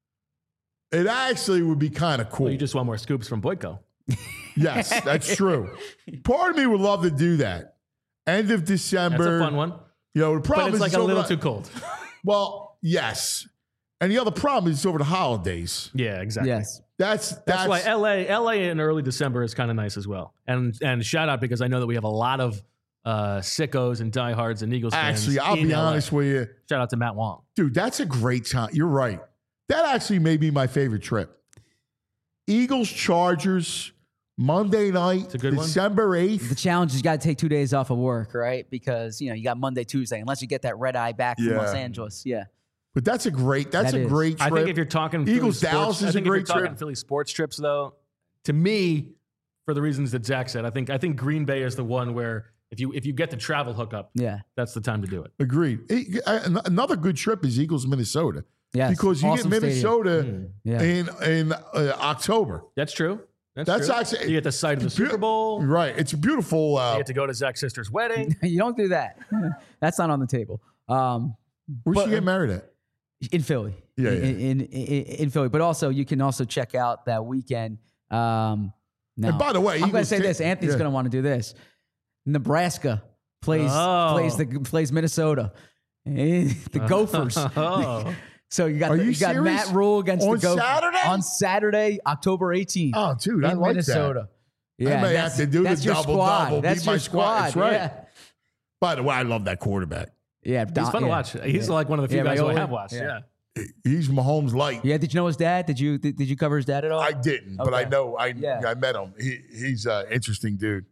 It actually would be kind of cool. Well, you just want more scoops from Boyko. Yes, that's true. Part of me would love to do that. End of December. That's a fun one. You know, the But problem it's is like it's a over little the- too cold. Well, yes. And the other problem is it's over the holidays. Yeah, exactly. Yes. That's why LA in early December is kind of nice as well. And shout out because I know that we have a lot of sickos and diehards and Eagles fans. Actually, I'll in be LA. honest with you. Shout out to Matt Wong. Dude, that's a great time. You're right. That actually may be my favorite trip. Eagles Chargers, Monday night, a good one. December 8th. The challenge is you got to take 2 days off of work, right? Because you got Monday, Tuesday, unless you get that red eye back from Yeah. Los Angeles. Yeah. But that's a great That is. trip. I think if you're talking Eagles Philly Dallas sports, is I a think great if you're talking trip. Philly sports trips, though, to me, for the reasons that Zach said, I think Green Bay is the one where if you get the travel hookup, Yeah. that's the time to do it. Agreed. Another good trip is Eagles Minnesota. Yes. Because you Awesome get stadium. Minnesota Yeah. in October. That's true. That's true. actually- You get the site of the Super Bowl. You Right. It's a beautiful. get to go to Zach's sister's wedding. You don't do that. That's not on the table. Where should you get married at? In Philly. Yeah, In Philly. But also, you can also check out that weekend. Now, And by the way, I'm going to Eagles say this. Anthony's yeah. going to want to do this. Nebraska plays Minnesota. The Gophers. Oh. So you got Are you you got serious? Matt Rule against On the Gophers Saturday? on Saturday, October 18th. Oh, dude, I in like Minnesota. that. Yeah, I may that's- have to do the that's your double squad. double. That's beat my your squad. That's right. Yeah, By the way, I love that quarterback. yeah. He's fun to watch. He's like one of the few Yeah, guys who I Raiola. have watched. Yeah. Yeah. He's Mahomes light. Yeah, did you know his dad? Did you cover his dad at all? I didn't, but I Okay. know Yeah. I met him. He's an interesting dude.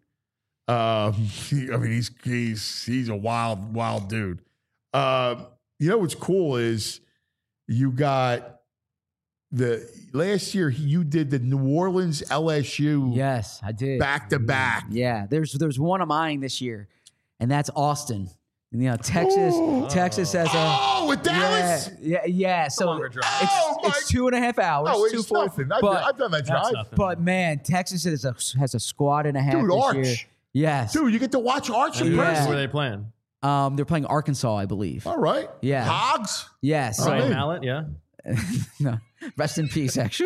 He's a wild dude. You know what's cool is you got the last year you did the New Orleans LSU Yes, I did. back to back. Yeah, there's one of mine this year, and that's Austin. And, Texas has a with Dallas. yeah. So longer drive. it's 2.5 hours. Oh, it's nothing. I've done that drive. nothing. But man, Texas has a squad and a half Dude, this Arch. year. Yes, Dude, you get to watch Arch in Yeah. Where person. are they playing? they're playing Arkansas, I believe. All right. Yeah. Hogs. Yes. Oh, Ryan hey. Mallett, yeah. No, rest in peace. Actually,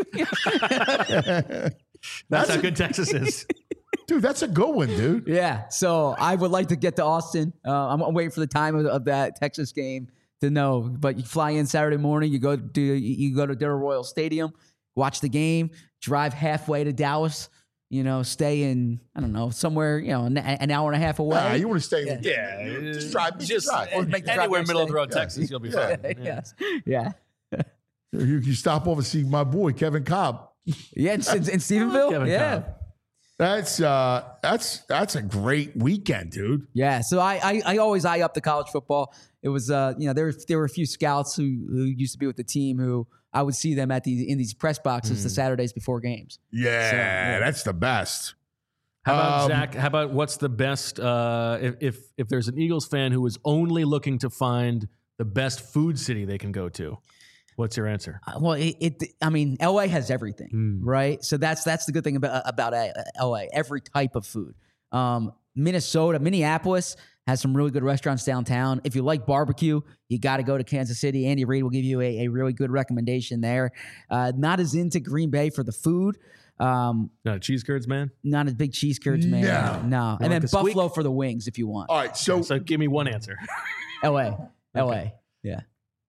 That's how good Texas is. Dude, that's a good one, dude. yeah. So I would like to get to Austin. I'm waiting for the time of that Texas game to know. But you fly in Saturday morning. You go to Darrell Royal Stadium, watch the game, drive halfway to Dallas. Stay in, I don't know, somewhere, an hour and a half away. Nah, you want to stay. Yeah. Just drive. Just drive. Or make the drive Anywhere next middle of day. the road, Texas, you'll be fine. Yeah. Yes. Yeah. You stop over and see my boy Kevin Cobb. Yeah. In Stephenville. Kevin Yeah. Cobb. That's a great weekend, dude. Yeah. So I always eye up the college football. It was, there were a few scouts who used to be with the team who I would see them in these press boxes the Saturdays before games. Yeah, that's the best. How about Zach? How about what's the best? If there's an Eagles fan who is only looking to find the best food city they can go to, what's your answer? Well, LA has everything, right? So that's the good thing about LA. Every type of food. Minneapolis has some really good restaurants downtown. If you like barbecue, you got to go to Kansas City. Andy Reid will give you a really good recommendation there. Not as into Green Bay for the food. Not a cheese curds, man. Not a big cheese curds man. No. And like then the squeak? Buffalo for the wings if you want. All right, so So give me one answer. LA. Okay. Yeah.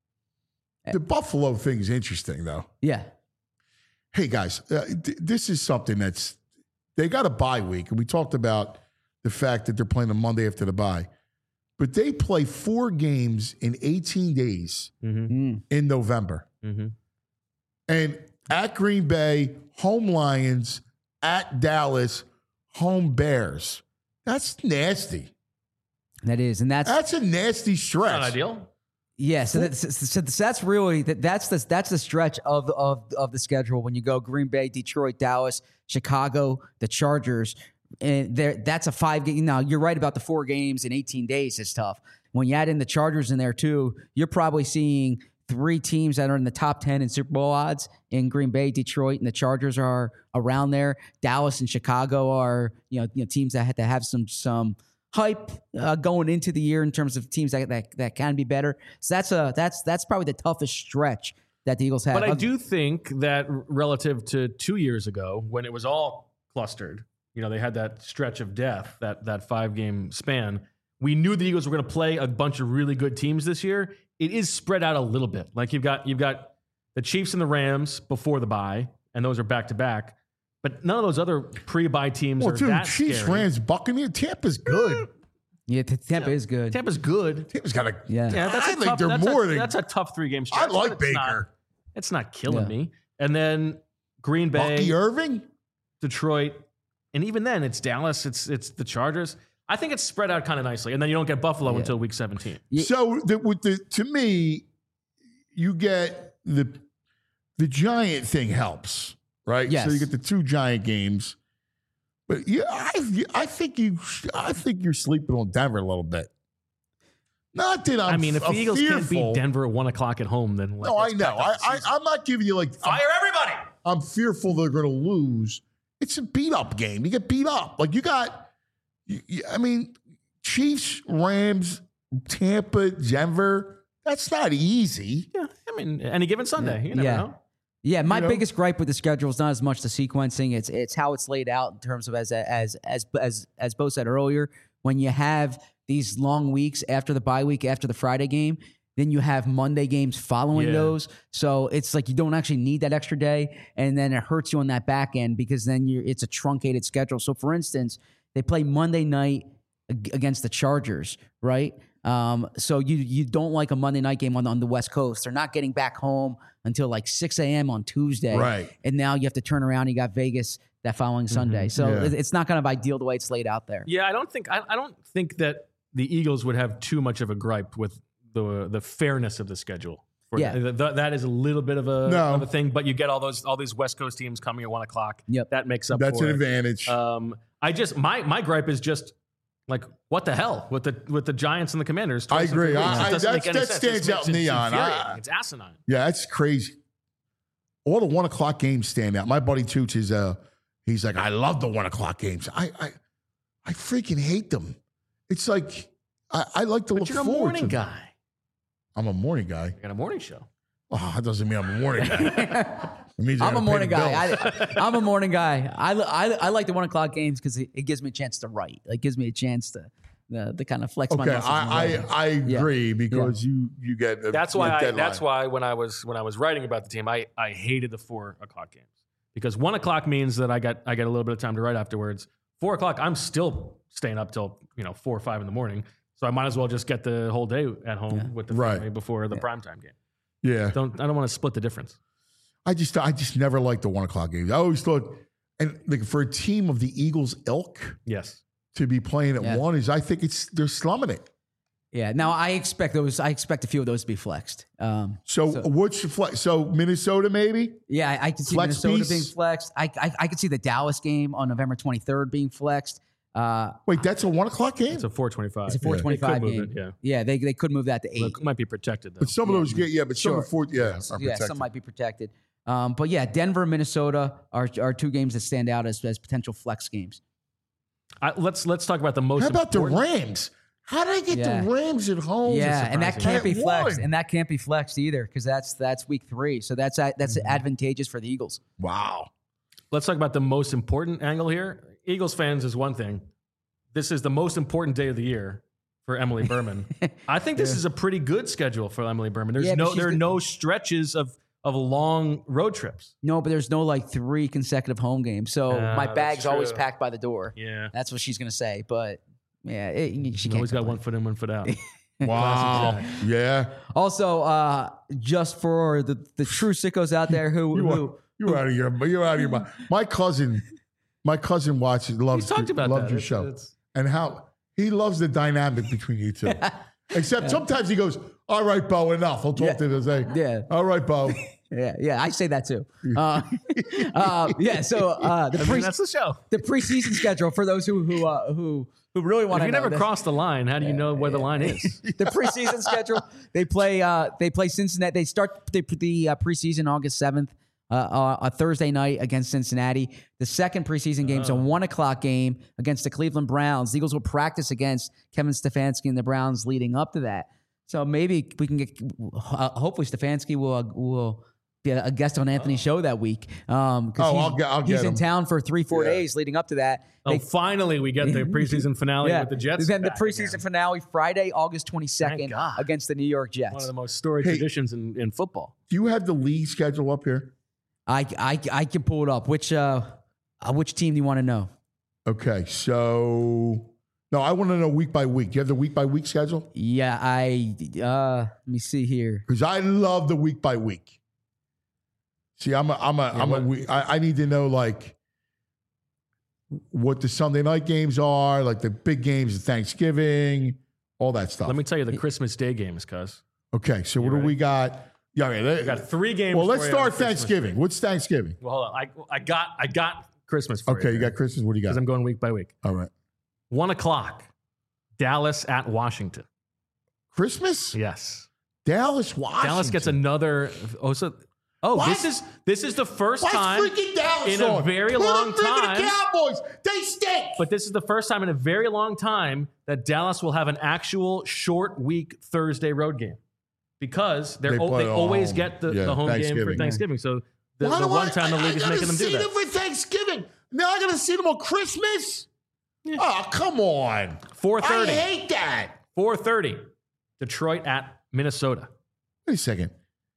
the Buffalo thing is interesting, though. Yeah. Hey, guys, this is something they got a bye week, and we talked about the fact that they're playing the Monday after the bye. But they play 4 games in 18 days in November. Mm-hmm. And at Green Bay, home Lions, at Dallas, home Bears. That's nasty. That is. And That's a nasty stretch. Not ideal. yeah, so that's really that's the stretch of the schedule when you go Green Bay, Detroit, Dallas, Chicago, the Chargers, and that's a 5 game. Now you're right about the 4 games in 18 days is tough. When you add in the Chargers in there too, you're probably seeing 3 teams that are in the top 10 in Super Bowl odds in Green Bay, Detroit, and the Chargers are around there. Dallas and Chicago are teams that have some hype going into the year in terms of teams that can be better. So that's probably the toughest stretch that the Eagles have. But I do think that relative to 2 years ago, when it was all clustered, they had that stretch of death, that 5-game span. We knew the Eagles were going to play a bunch of really good teams this year. It is spread out a little bit. Like you've got the Chiefs and the Rams before the bye, and those are back to back. But none of those other pre-bye teams are dude, that Chiefs, scary. Rams, Buccaneers, Tampa's good. Yeah, Tampa is good. Tampa's good. Tampa's got a. Yeah. Yeah, that's I a think tough, they're that's more a, than. that's a tough 3-game stretch. I like but it's Baker. It's not killing Yeah. me. And then Green Bay, Bucky Irving. Detroit, and even then it's Dallas, it's the Chargers. I think it's spread out kind of nicely, and then you don't get Buffalo until week 17. Yeah. So to me, you get the Giant thing helps, right? Yes. So you get the 2 Giant games, but yeah, I think you're sleeping on Denver a little bit. Not that I mean, if the Eagles can't fearful. beat Denver at 1 o'clock at home, then No, I know. I'm not giving you like fire everybody. I'm fearful they're going to lose. It's a beat up game. You get beat up. Like you got, I mean, Chiefs, Rams, Tampa, Denver. That's not easy. Yeah, I mean, any given Sunday, you never know. Yeah, my biggest gripe with the schedule is not as much the sequencing; it's how it's laid out in terms of as Bo said earlier. When you have these long weeks after the bye week, after the Friday game, then you have Monday games following those. So it's like you don't actually need that extra day, and then it hurts you on that back end because then it's a truncated schedule. So, for instance, they play Monday night against the Chargers, right? So you don't like a Monday night game on the West Coast. They're not getting back home until like 6 a.m. on Tuesday. Right. And now you have to turn around. You got Vegas that following Sunday. So it's not kind of ideal the way it's laid out there. Yeah, I don't think that the Eagles would have too much of a gripe with the fairness of the schedule. Yeah. That is a little bit of a, No. of a thing, but you get all these West Coast teams coming at 1 o'clock. Yep. That makes up That's for an it. advantage. I just my gripe is just like what the hell with the Giants and the Commanders. I twice in agree. 3 weeks. It doesn't make any that sense. stands It out makes in it neon. infuriating. It's asinine. Yeah, that's crazy. All the 1 o'clock games stand out. My buddy Toots is he's like, I love the 1 o'clock games. I freaking hate them. It's like I like to But look you're a forward morning to them. guy. I'm a morning guy. I got a morning show. Oh, that doesn't mean I'm a morning guy. It means I I'm a gotta pay morning the guy. bills. I'm a morning guy. I like the 1 o'clock games because it gives me a chance to write. It gives me a chance to kind of flex my Okay, muscles. in writing. I agree because you get That's a why deadline. that's why when I was writing about the team, I hated the 4 o'clock games because 1 o'clock means that I get a little bit of time to write afterwards. 4 o'clock, I'm still staying up till 4 or 5 in the morning, so I might as well just get the whole day at home with the family before the primetime game. Yeah. I don't want to split the difference. I just never liked the 1 o'clock games. I always thought, and like for a team of the Eagles ilk Yes. to be playing at 1 is, I think they're slumming it. Yeah. Now I expect a few of those to be flexed. So which flex? So Minnesota maybe? Yeah, I could see Flex Minnesota piece? being flexed. I could see the Dallas game on November 23rd being flexed. Wait, that's a 1 o'clock game? It's a 4:25. It's a 4:25 They could game. move it, Yeah, they could move that to 8. It might be protected though. But some of those get, but some Sure. of the fourth, are Yeah, protected. some might be protected. But yeah, Denver and Minnesota are 2 games that stand out as potential flex games. Let's talk about the most. How about the important- Rams? How did I get Yeah. the Rams at home? Yeah, and that surprising. can't be At flexed, 1. and that can't be flexed either because that's week 3. So that's advantageous for the Eagles. Wow. Let's talk about the most important angle here. Eagles fans is one thing. This is the most important day of the year for Emily Berman. I think this is a pretty good schedule for Emily Berman. Yeah, but There are she's no stretches of long road trips. No, but there's no like 3 consecutive home games. So my that's bag's always true. packed by the door. Yeah. That's what she's gonna say. But yeah, she You can't. always got complain. one foot in, one foot out. Wow. Yeah. Also, just for the true sickos out there who You're out of your mind. My cousin watches, loves talked about loves that. your It's- show. it's- And how he loves the dynamic between you two. Except sometimes he goes, all right, Bo, enough. I'll talk to you. Say, Yeah. all right, Bo. yeah, I say that too. Yeah, so That's the show. the preseason schedule for those who really want If to you know. never cross the line, how do you know where the line is? The preseason schedule. They play Cincinnati. They start the preseason August 7th, a Thursday night against Cincinnati. The second preseason game's a 1 o'clock game against the Cleveland Browns. The Eagles will practice against Kevin Stefanski and the Browns leading up to that. So maybe we can get. Hopefully, Stefanski will be a guest on Anthony's show that week. I'll get he's in him. town for 3-4 days leading up to that. Oh, finally, we get the preseason finale with the Jets. Then the back preseason again. finale Friday, August Thank 22nd God. against the New York Jets. One of the most storied traditions in football. Do you have the league schedule up here? I can pull it up. Which team do you want to know? Okay, so no, I want to know week by week. Do you have the week by week schedule? Yeah, let me see here. Because I love the week by week. See, I need to know like what the Sunday night games are, like the big games of Thanksgiving, all that stuff. Let me tell you the Christmas Day games, cuz. Okay, so what do we got? Yeah, We got 3 games. well, let's for you on start Christmas Thanksgiving. Day. What's Thanksgiving? Well, hold on. I got Christmas for you. Okay, you got Christmas. What do you got? Because I'm going week by week. All right, 1 o'clock, Dallas at Washington. Christmas. Yes. Dallas, Washington. Dallas gets another. What? this is the first Why's time freaking Dallas in a on? very Put long them through time. The Cowboys, they stink. But this is the first time in a very long time that Dallas will have an actual short week Thursday road game because They they play at always home. get the Yeah, home game for Thanksgiving. Thanksgiving. So the Why do one time the league is making them do I that. gotta see them for Thanksgiving. Now I gotta see them on Christmas. Oh, come on. 4:30. I hate that. 4:30. Detroit at Minnesota. Wait a second.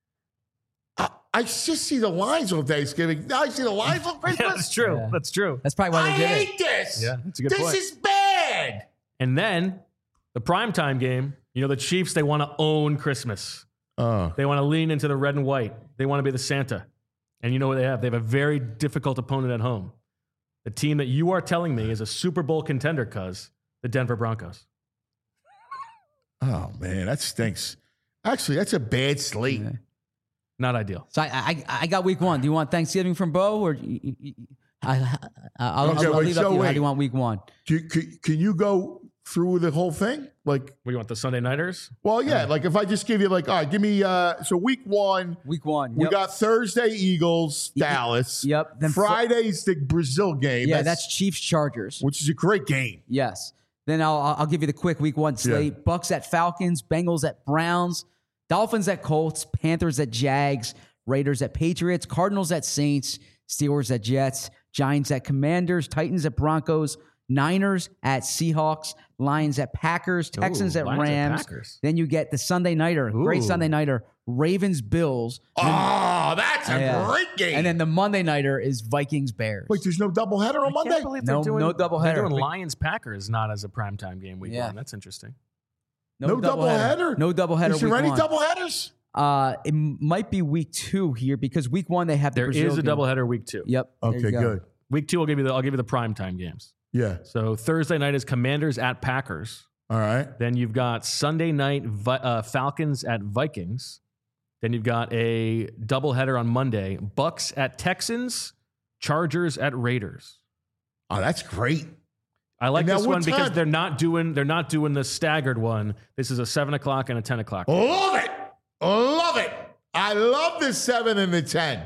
I just see the lines on Thanksgiving. Now I see the lines on Christmas. Yeah, that's true. Yeah. That's true. That's probably why I they did hate it. this. Yeah, that's a good this point. is bad. And then the primetime game, the Chiefs, they want to own Christmas. Oh, They want to lean into the red and white. They want to be the Santa. And you know what they have? They have a very difficult opponent at home. The team that you are telling me is a Super Bowl contender, cuz the Denver Broncos. oh man, that stinks. Actually, that's a bad slate. Yeah. Not ideal. So I got week 1. Do you want Thanksgiving from Bo or I'll Okay, leave wait, it up so to you. How wait. do you want week 1? Can you go through the whole thing? Like, What do you want, the Sunday Nighters? well, yeah. Like, if I just give you, like, all right, give me. So week 1, Week 1. we Yep. got Thursday Eagles, Dallas. Yep. Then Friday's the Brazil game. Yeah, that's Chiefs Chargers. which is a great game. Yes. Then I'll give you the quick week 1 slate. Bucks at Falcons, Bengals at Browns, Dolphins at Colts, Panthers at Jags, Raiders at Patriots, Cardinals at Saints, Steelers at Jets, Giants at Commanders, Titans at Broncos, Niners at Seahawks, Lions at Packers, Texans at Lions at Rams. Packers. Then you get the Sunday nighter, great Ooh. Sunday nighter, Ravens Bills. Oh, that's a Yeah. great game. And then the Monday nighter is Vikings Bears. wait, there's no doubleheader on Monday? Can't believe No- no doubleheader. They're doing Lions Packers not as a primetime game week Yeah. 1. That's interesting. No doubleheader? No doubleheader. Is there week any 1. doubleheaders? It might be week 2 here because week 1 they have the There Brazil is a game. doubleheader week 2. Yep. there Okay, you go. good. Week 2, I'll give you the primetime games. Yeah. So Thursday night is Commanders at Packers. All right. Then you've got Sunday night Falcons at Vikings. Then you've got a doubleheader on Monday: Bucks at Texans, Chargers at Raiders. Oh, that's great. I like And now this what one because time? they're not doing the staggered one. This is a 7 o'clock and a 10 o'clock. Love it. Love it. I love the 7 and the 10.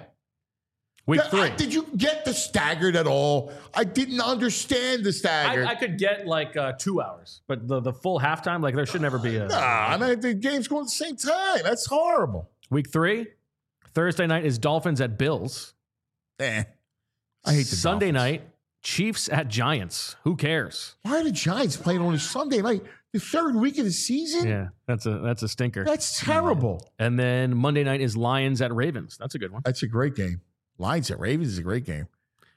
Week 3. Did you get the staggered at all? I didn't understand the staggered. I could get like 2 hours, but the full halftime, like there should never be a. Nah, I mean, the games go at the same time. That's horrible. Week 3, Thursday night is Dolphins at Bills. I hate the Sunday Dolphins. night, Chiefs at Giants. Who cares? Why are the Giants playing on a Sunday night? The third week of the season? Yeah, that's a stinker. That's terrible. And then Monday night is Lions at Ravens. That's a good one. That's a great game. Lions at Ravens is a great game.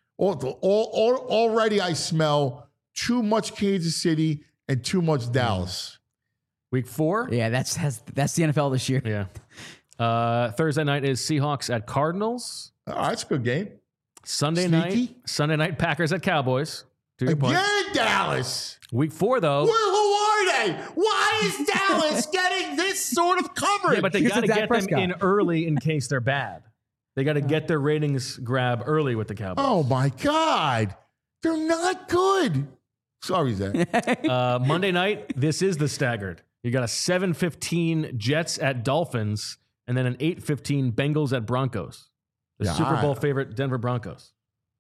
Already I smell too much Kansas City and too much Dallas. Week 4, Yeah, that's the NFL this year. yeah. Thursday night is Seahawks at Cardinals. Oh, that's a good game. Sunday Sneaky. night Packers at Cowboys. To your point. Again, Dallas. Week 4 though. Who are they? Why is Dallas getting this sort of coverage? Yeah, but they Because got to of Dak get them Prescott. in early in case they're bad. They got to get their ratings grab early with the Cowboys. Oh my God. They're not good. Sorry, Zach. Monday night, this is the staggered. You got a 7:15 Jets at Dolphins, and then an 8:15 Bengals at Broncos. The Yeah, Super Bowl I- favorite Denver Broncos.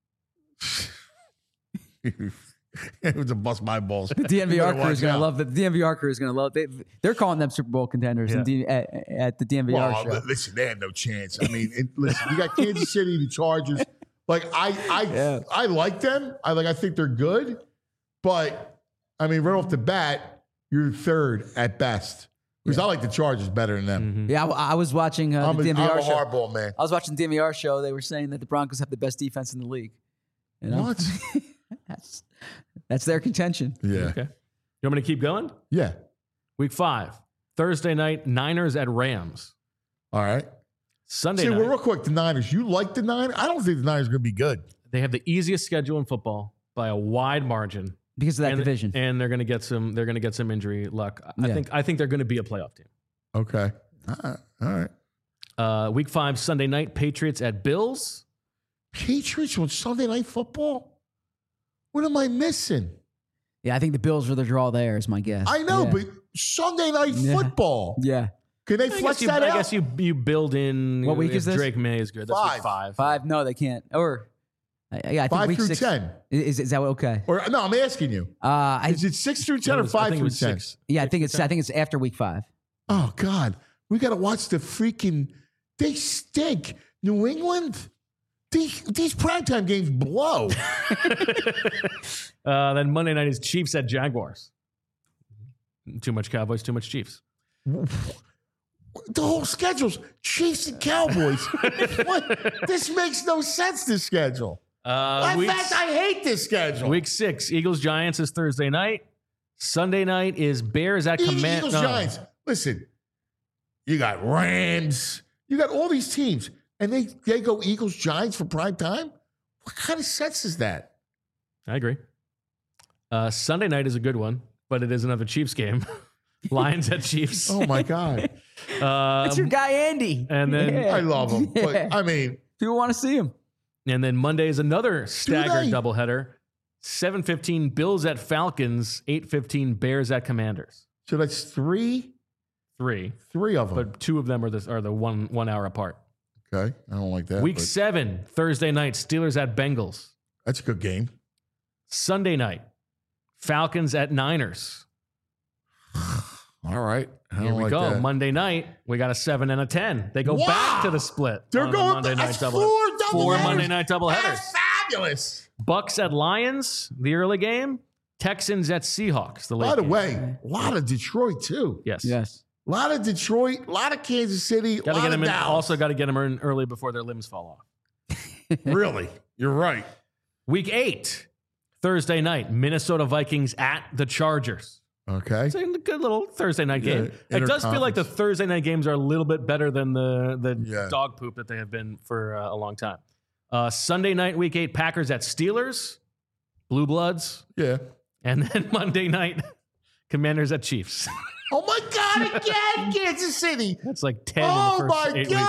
It was a bust my balls. The DNVR crew is Watch going to out. love the DNVR crew is going to love. They're calling them Super Bowl contenders at the DNVR Well, show. listen, they had no chance. I mean, listen, you got Kansas City, the Chargers. Like I like them. I think they're good, but I mean, right off the bat, you're third at best. Because I like the Chargers better than them. Yeah, I was watching the I'm a DNVR show. hardball man. I was watching the DNVR show. They were saying that the Broncos have the best defense in the league. You know? What? That's their contention. Yeah, Okay. You want me to keep going? yeah. Week 5, Thursday night, Niners at Rams. All right. Sunday See, night, well, real quick, the Niners. You like the Niners? I don't think the Niners are going to be good. they have the easiest schedule in football by a wide margin. Because of that and, division. and they're going to get some injury luck. Yeah. I think they're going to be a playoff team. Okay. All right. Week 5, Sunday night, Patriots at Bills. Patriots on Sunday Night Football? What am I missing? Yeah, I think the Bills are the draw there, is my guess. I know, Yeah. but Sunday Night Football. Yeah. Can they flex that I out? guess you build in. What week if is this? Drake May is good. That's week 5. 5? No, they can't. Or, I think 5 week through 6. 10. Is that okay? Or no, I'm asking you. Is it 6 through 10 No, or I 5 think it through was 10? 6. Yeah, I think it's after week 5. Oh God, we got to watch the freaking. They stink. New England. These primetime games blow. Then Monday night is Chiefs at Jaguars. Too much Cowboys, too much Chiefs. The whole schedule's Chiefs and Cowboys. What? This makes no sense. This schedule. In fact, I hate this schedule. Week 6, Eagles Giants is Thursday night. Sunday night is Bears at Eagles Giants. Listen, you got Rams. You got all these teams, and they go Eagles Giants for prime time. What kind of sense is that? I agree. Sunday night is a good one, but it is another Chiefs game. Lions at Chiefs. Oh my God. That's your guy, Andy. And then I love him. But, I mean, people want to see him. And then Monday is another staggered they? doubleheader. 7:15 Bills at Falcons, 8:15 Bears at Commanders. so that's three of them. But two of them are the 1 hour apart. Okay, I don't like that. Week but 7, Thursday night, Steelers at Bengals. that's a good game. Sunday night, Falcons at Niners. All right, I Here don't we like go. that. Monday night, we got a 7 and a 10. They go Wow. back to the split. They're on the going. Monday night That's doubleheader. four Four Monday night doubleheaders. That's fabulous. Bucks at Lions, the early game. Texans at Seahawks, the late By the game. way, a lot of Detroit too. Yes. Yes. A lot of Detroit, a lot of Kansas City, Got to a lot get of them in. Dallas. Also, got to get them in early before their limbs fall off. Really, you're right. Week 8, Thursday night, Minnesota Vikings at the Chargers. Okay. It's a good little Thursday night game. Yeah, It does feel like the interconference. Thursday night games are a little bit better than the Yeah. dog poop that they have been for a long time. Sunday night, Week 8, Packers at Steelers, Blue Bloods, Yeah. and then Monday night, Commanders at Chiefs. Oh my God! Again, Kansas City. That's like 10 Oh in the first my 8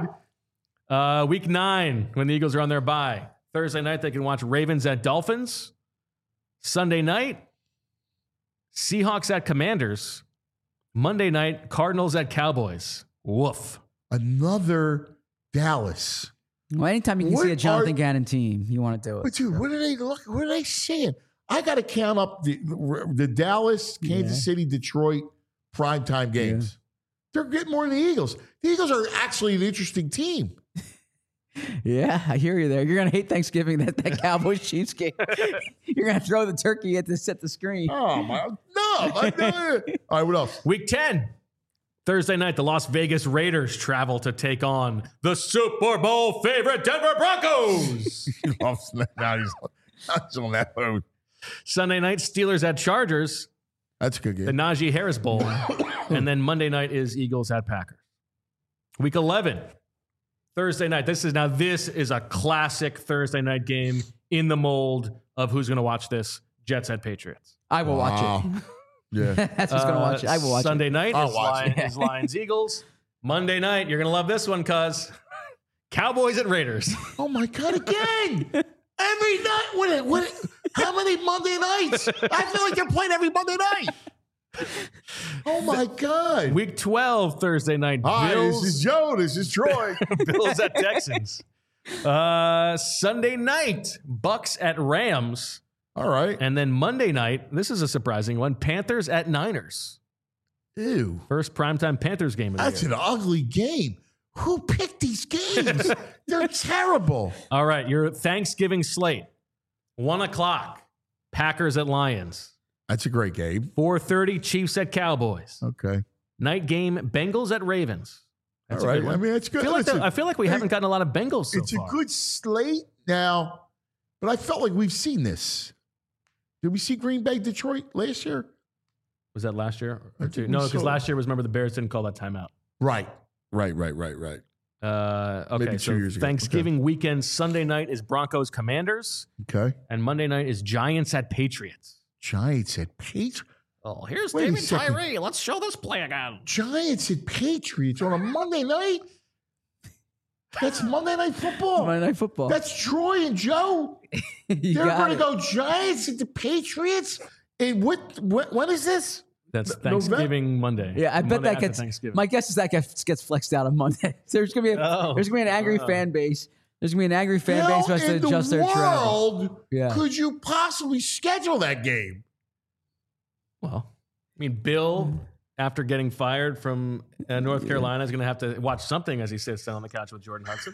God! weeks. Week 9, when the Eagles are on their bye. Thursday night, they can watch Ravens at Dolphins. Sunday night, Seahawks at Commanders. Monday night, Cardinals at Cowboys. Woof. Another Dallas. Well, anytime you can What see a Jonathan are- Gannon team, you want to do But it. dude, what are they look? What are they saying? I got to count up the Dallas, Kansas City, Detroit primetime games. They're getting more than the Eagles. The Eagles are actually an interesting team. Yeah, I hear you there. You're gonna hate Thanksgiving that Cowboys Chiefs game. You're gonna throw the turkey at the set the screen. Oh my! No. All right, what else? Week 10, Thursday night, the Las Vegas Raiders travel to take on the Super Bowl favorite Denver Broncos. Now he's on that mode. Sunday night, Steelers at Chargers, That's a good the game. Najee Harris Bowl. And then Monday night is Eagles at Packers. Week 11, Thursday night. This is a classic Thursday night game in the mold of who's going to watch this. Jets at Patriots. I will watch it. Yeah. That's who's gonna watch it. I will watch Sunday it. night I'll is, watch it. is Lions Eagles. Monday night, you're going to love this one, cuz. Cowboys at Raiders. Oh my God! Again, every night. What? How many Monday nights? I feel like they're playing every Monday night. Oh my God! Week 12, Thursday night. Hi, Bills, this is Joe. This is Troy. Bills at Texans. Sunday night, Bucks at Rams. All right. And then Monday night, this is a surprising one, Panthers at Niners. Ew. First primetime Panthers game of the That's year. an ugly game. Who picked these games? They're terrible. All right, your Thanksgiving slate. 1 o'clock, Packers at Lions. That's a great game. 4:30, Chiefs at Cowboys. Okay. Night game, Bengals at Ravens. That's All a right. good one. I mean, it's good. I feel like we haven't gotten a lot of Bengals so It's far. a good slate now, but I felt like we've seen this. Did we see Green Bay, Detroit last year? Was that last year? I Or think two? we No, because saw- last year was, remember, the Bears didn't call that timeout. Right. Okay, Maybe 2 so years ago. Thanksgiving weekend, Sunday night is Broncos Commanders, Okay. and Monday night is Giants at Patriots. Giants at Patriots. Oh, here's Wait a David second. Tyree. Let's show this play again. Giants at Patriots on a Monday night? That's Monday Night Football. Monday Night Football. That's Troy and Joe. You They're got going to it. go Giants at the Patriots? And when is this? That's November? Thanksgiving Monday. Yeah, I bet Monday that after gets. Thanksgiving. My guess is that gets flexed out on Monday. There's gonna be an angry fan base. There's gonna be an angry fan base who has to in adjust the their travel. world Yeah. could you possibly schedule that game? Well, I mean, Bill, after getting fired from North Carolina, is going to have to watch something as he sits down on the couch with Jordan Hudson.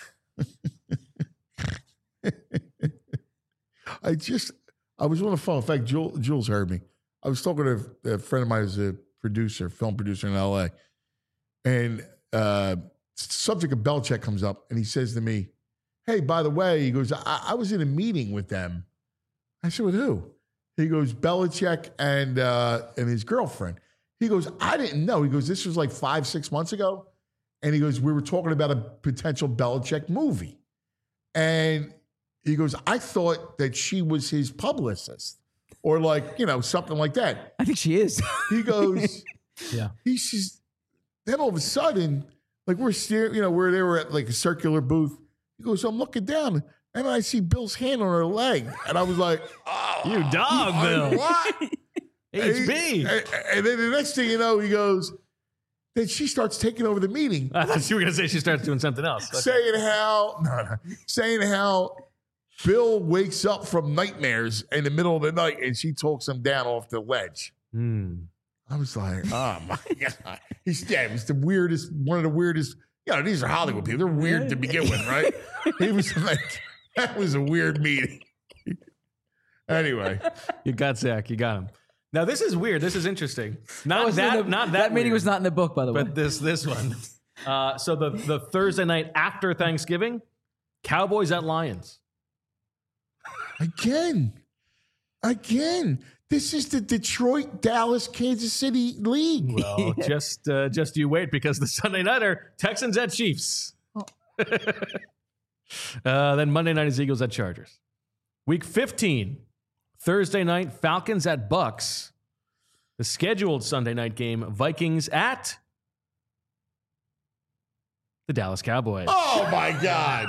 I was on the phone. In fact, Jules heard me. I was talking to a friend of mine who's a producer, film producer in LA. And subject of Belichick comes up and he says to me, hey, by the way, he goes, I was in a meeting with them. I said, with who? He goes, Belichick and his girlfriend. He goes, I didn't know. He goes, this was like 5-6 months ago. And he goes, we were talking about a potential Belichick movie. And he goes, I thought that she was his publicist or like, something like that. I think she is. He goes, Yeah. he says, then all of a sudden, like we're staring, where they were at like a circular booth. He goes, I'm looking down and I see Bill's hand on her leg. And I was like, oh, You dog, Bill. what? HB. And then the next thing you know, he goes, then she starts taking over the meeting, I thought you were going to say she starts doing something else. Okay. saying how Bill wakes up from nightmares in the middle of the night and she talks him down off the ledge. I was like, oh my God. He's the weirdest, one of the weirdest. These are Hollywood people. They're weird to begin with, right? He was like, that was a weird meeting. Anyway. You got Zach. You got him. Now, this is weird. This is interesting. Not that meeting weird, was not in the book, by the way. but this one. So the Thursday night after Thanksgiving, Cowboys at Lions. Again. This is the Detroit, Dallas, Kansas City League. Well, just you wait, because the Sunday nighter, Texans at Chiefs. Then Monday night is Eagles at Chargers. Week 15, Thursday night, Falcons at Bucks. The scheduled Sunday night game, Vikings at the Dallas Cowboys. Oh my God.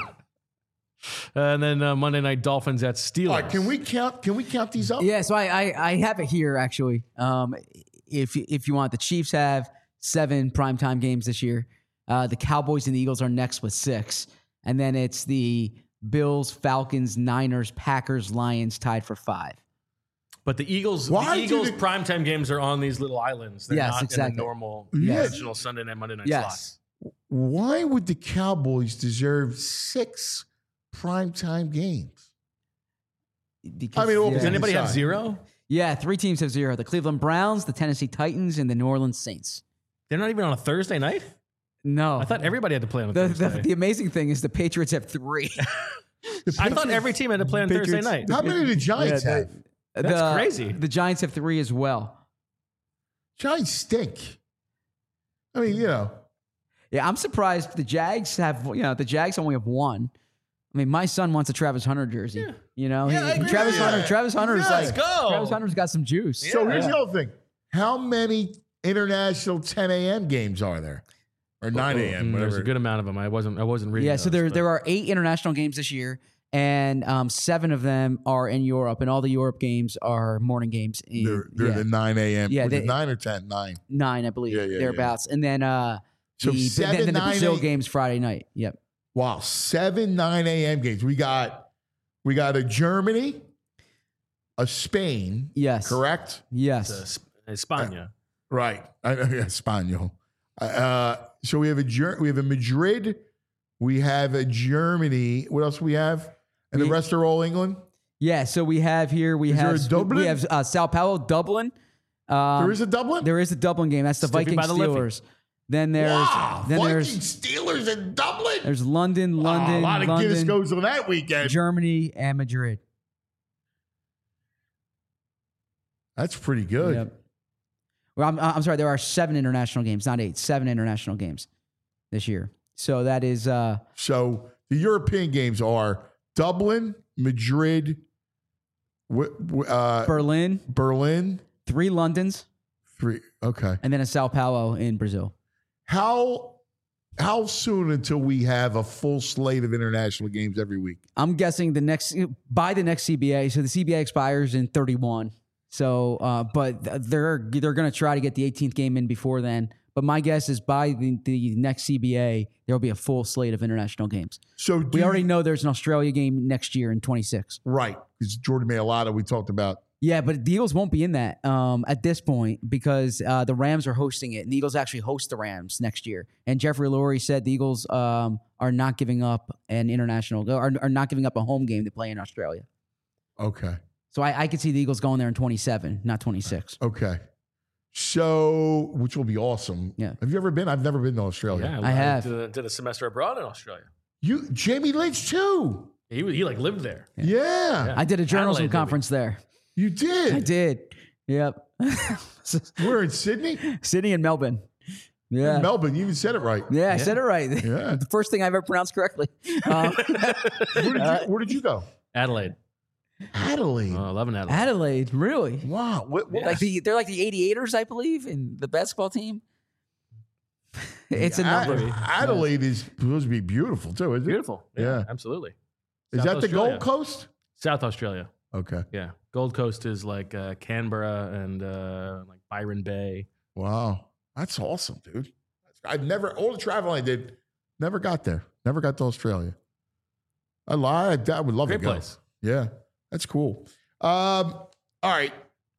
And then Monday night, Dolphins at Steelers. All right, can we count these up? Yeah, so I have it here actually. If you want, the Chiefs have 7 primetime games this year. The Cowboys and the Eagles are next with 6, and then it's the Bills, Falcons, Niners, Packers, Lions tied for 5. But the Eagles primetime games are on these little islands. They're Yes, not exactly. in the normal Yes. traditional Sunday night, Monday night Yes. slots. Why would the Cowboys deserve 6 primetime games? Because, I mean, well, Does Yeah. anybody have Decide. 0? Yeah, 3 teams have 0. The Cleveland Browns, the Tennessee Titans, and the New Orleans Saints. They're not even on a Thursday night? No. I thought everybody had to play on a Thursday. The amazing thing is the Patriots have 3. I thought every team had to play on Thursday night. How many do the Giants have? That's crazy. The Giants have 3 as well. Giants stink. I mean, Yeah, I'm surprised the Jags have, the Jags only have 1. I mean, my son wants a Travis Hunter jersey. Yeah, I agree. Travis Yeah. Hunter's Yeah. like, Let's go. Travis Hunter's got some juice. so here's the other thing. How many international 10 a.m. games are there? Or 9 a.m., There's whatever. a good amount of them. I wasn't reading. Yeah, so there are 8 international games this year, and 7 of them are in Europe, and all the Europe games are morning games. They're the 9 a.m. Yeah, Was it they- 9 or 10? 9. 9, I believe, Yeah, thereabouts. And then So the 7, then the 9, Brazil 8. games Friday night. Yep. Wow, 7 9 a.m. games. We got a Germany, a Spain. Yes. Correct? Yes. España. Right. Espanol. So we have a Madrid, we have a Germany. What else we have? And the rest are all England. Yeah. So we have here. there a Dublin? We have Sao Paulo, Dublin. There is a Dublin. There is a Dublin game. That's the Stiffy Vikings by the Liffey. Steelers. Then there's Wow, then Vikings, Steelers, and Dublin. there's London, Oh, a lot of Guinness London, goes on that weekend. Germany, and Madrid. That's pretty good. Yep. Well, I'm sorry. There are 7 international games, not 8. 7 international games this year. So that is So the European games are Dublin, Madrid, Berlin, Berlin. 3 Londons, 3. Okay. and then a Sao Paulo in Brazil. How soon until we have a full slate of international games every week? I'm guessing by the next CBA. So the CBA expires in 31. So, but they're going to try to get the 18th game in before then. But my guess is by the next CBA, there will be a full slate of international games. So We already know there's an Australia game next year in 26. right, because Jordan Mailata we talked about. Yeah, but the Eagles won't be in that at this point because the Rams are hosting it, and the Eagles actually host the Rams next year. And Jeffrey Lurie said the Eagles are not giving up an international, are not giving up a home game to play in Australia. Okay. So I could see the Eagles going there in 27, not 26. Okay. So, which will be awesome. Yeah. Have you ever been? I've never been to Australia. Yeah, I have. did a semester abroad in Australia. Jamie Lynch too. He like lived there. Yeah. I did a journalism Adelaide, conference there. You did. I did. Yep. We're in Sydney? Sydney and Melbourne. Yeah. Melbourne. You even said it right. Yeah, I said it right. Yeah. The first thing I've ever pronounced correctly. Where did you go? Adelaide. Adelaide. Oh, 11 Adelaide. Adelaide, really? Wow. What They're like the 88ers, I believe, in the basketball team. It's a number. Adelaide is supposed to be beautiful too, isn't it? Beautiful. Yeah. Absolutely. Is South that the Australia. Gold Coast? South Australia. Okay. Yeah. Gold Coast is like Canberra and like Byron Bay. Wow. That's awesome, dude. I've never, all the traveling I did, never got there. Never got to Australia. I lied. I would love Great to go. place. Yeah. That's cool. All right.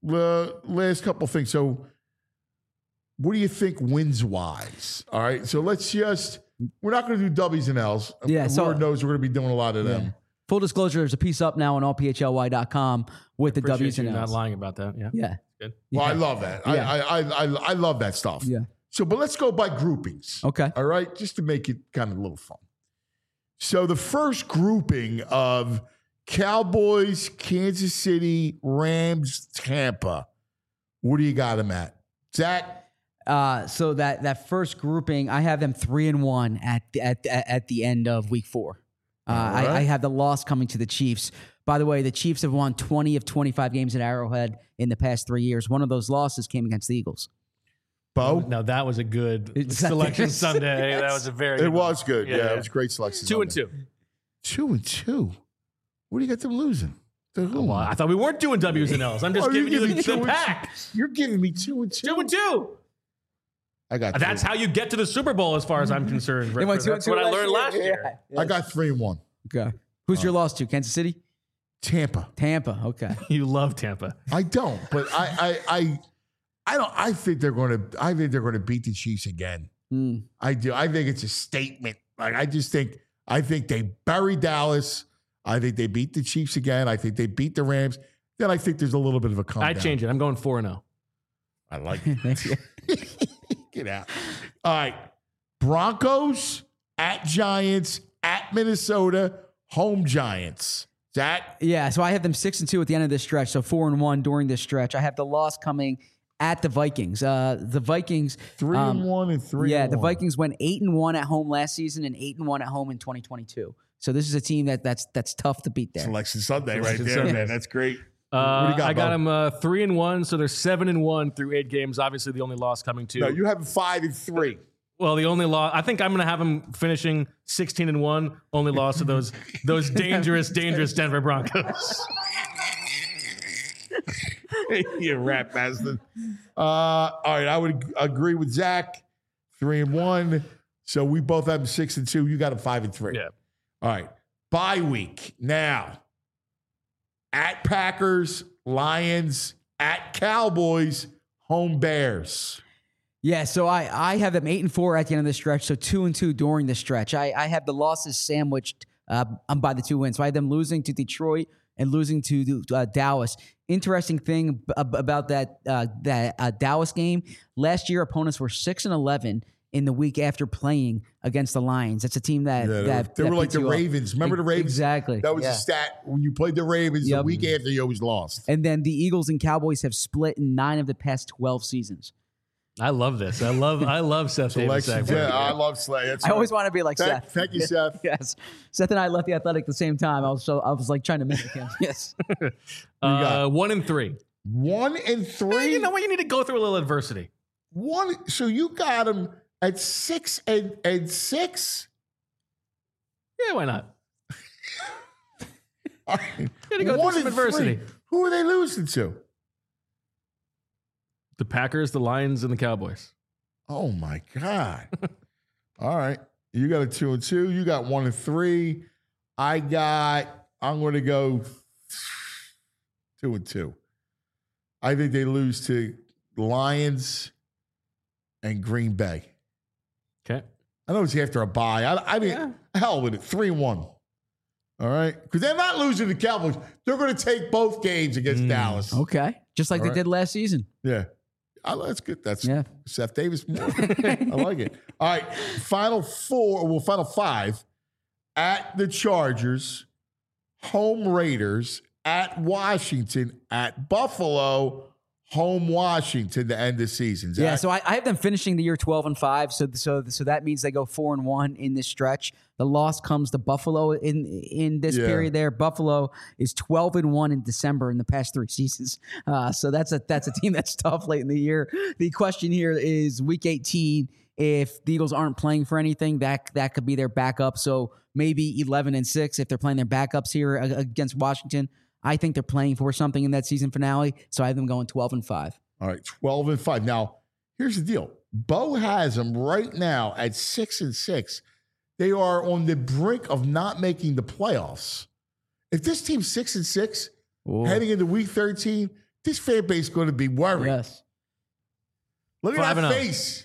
Last couple things. So, what do you think wins wise? All right. So, we're not going to do W's and L's. Yeah, so- Lord knows we're going to be doing a lot of them. Full disclosure, there's a piece up now on allphly.com with the Appreciate W's you and not L's. lying about that. Yeah. Yeah. Good. Well, I Yeah. love that. Yeah. I love that stuff. Yeah. So, but let's go by groupings. Okay. All right. Just to make it kind of a little fun. So, the first grouping of Cowboys, Kansas City, Rams, Tampa. What do you got them at? Zach? So that first grouping, I have them 3-1 at the end of week 4. right. I have the loss coming to the Chiefs. By the way, the Chiefs have won 20 of 25 games at Arrowhead in the past 3 years. One of those losses came against the Eagles. Bo? Now that was a good It's- selection Sunday. That was a very. It was good. Yeah, Yeah, yeah. it was a great selection. 2-2. 2-2. What do you got them losing? To whom? Well, I thought we weren't doing W's and L's. I'm just Oh, you're giving you giving the 2-2. pack. You're giving me 2-2. 2-2. I got That's how you get to the Super Bowl, as far as I'm concerned. They went That's 2-2 what I learned last year. Yeah. I got 3-1. Okay. Who's your loss to? Kansas City? Tampa. Tampa. Okay. You love Tampa. I don't, but I don't. I think they're going to beat the Chiefs again. Hmm. I do. I think it's a statement. Like I think they bury Dallas. I think they beat the Chiefs again. I think they beat the Rams. Then I think there's a little bit of a comeback. I change it. I'm going 4-0. I like it. Get out. All right. Broncos at Giants at Minnesota, home Giants. Zach? Yeah, so I have them 6-2 at the end of this stretch, so 4-1 during this stretch. I have the loss coming at the Vikings. The Vikings 3-1 and 3-1. Yeah, the Vikings went 8-1 at home last season and 8-1 at home in 2022. So this is a team that's tough to beat there. Selection Sunday right Selection there, Sunday. man. That's great. What do you got, I got Bo? them 3-1, so they're 7-1 through 8 games. Obviously, the only loss coming to. No, you have 5-3. Well, the only loss. I think I'm going to have them finishing 16-1. Only loss to those dangerous Denver Broncos. You rat bastard. All right, I would agree with Zach. 3-1. So we both have 6-2. You got a 5-3. Yeah. All right. Bye week. Now, at Packers, Lions, at Cowboys, home Bears. Yeah, so I have them 8-4 at the end of the stretch, so 2-2 during the stretch. I have the losses sandwiched by the 2 wins. So I have them losing to Detroit and losing to Dallas. Interesting thing about that Dallas game, last year opponents were 6-11 in the week after playing against the Lions. That's a team that They were like beats the you up. Ravens. Remember the Ravens? Exactly. That was yeah. a stat. When you played the Ravens, the Yep. week after, you always lost. And then the Eagles and Cowboys have split in 9 of the past 12 seasons. I love this. I love Seth Davis. Selections. Yeah, I love Slay. That's I right. always want to be like Seth. Thank you, Seth. Yes. Seth and I left the Athletic at the same time. I was like trying to mimic him. Yes. 1-3. 1-3. You know what? You need to go through a little adversity. So you got them at 6-6. Yeah, why not? All right. You got to go through some adversity. Who are they losing to? The Packers, the Lions, and the Cowboys. Oh my God. All right. You got a 2-2. You got 1-3. I'm going to go 2-2. I think they lose to Lions and Green Bay. Okay. I know it's after a bye. I mean, hell with it. 3-1. All right. Because they're not losing to the Cowboys. They're going to take both games against Dallas. Okay. Just like All they right. did last season. Yeah. That's good. That's Yeah. Seth Davis more. I like it. All right. Final 5 at the Chargers, home Raiders, at Washington, at Buffalo, home Washington to end the season. Zach. Yeah, so I have them finishing the year 12-5. So that means they go 4-1 in this stretch. The loss comes to Buffalo in this period there. Buffalo is 12-1 in December in the past 3 seasons. So that's a team that's tough late in the year. The question here is Week 18. If the Eagles aren't playing for anything, that could be their backup. So maybe 11-6 if they're playing their backups here against Washington. I think they're playing for something in that season finale, so I have them going 12-5. All right, 12-5. Now, here's the deal. Bo has them right now at 6-6. They are on the brink of not making the playoffs. If this team's 6-6, heading into Week 13, this fan base is going to be worried. Yes. Look at that face.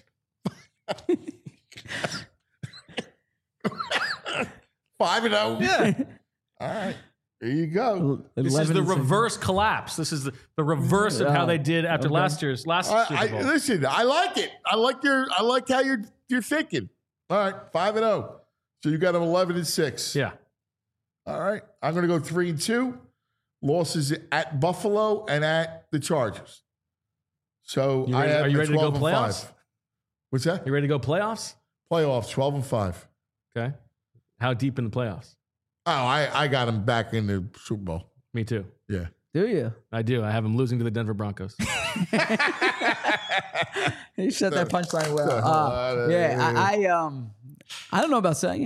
5-0. Yeah. All right. There you go. This is the reverse collapse. This is the reverse of how they did after last Super Bowl. Listen, I like it. I like how you're thinking. All right, 5-0. So you got them 11-6. Yeah. All right. I'm going to go 3-2. Losses at Buffalo and at the Chargers. So are you ready to go playoffs? What's that? You ready to go playoffs? Playoffs, 12-5. Okay. How deep in the playoffs? Oh, I got them back in the Super Bowl. Me too. Yeah. Do you? I do. I have them losing to the Denver Broncos. You said that punchline well. I don't know about saying.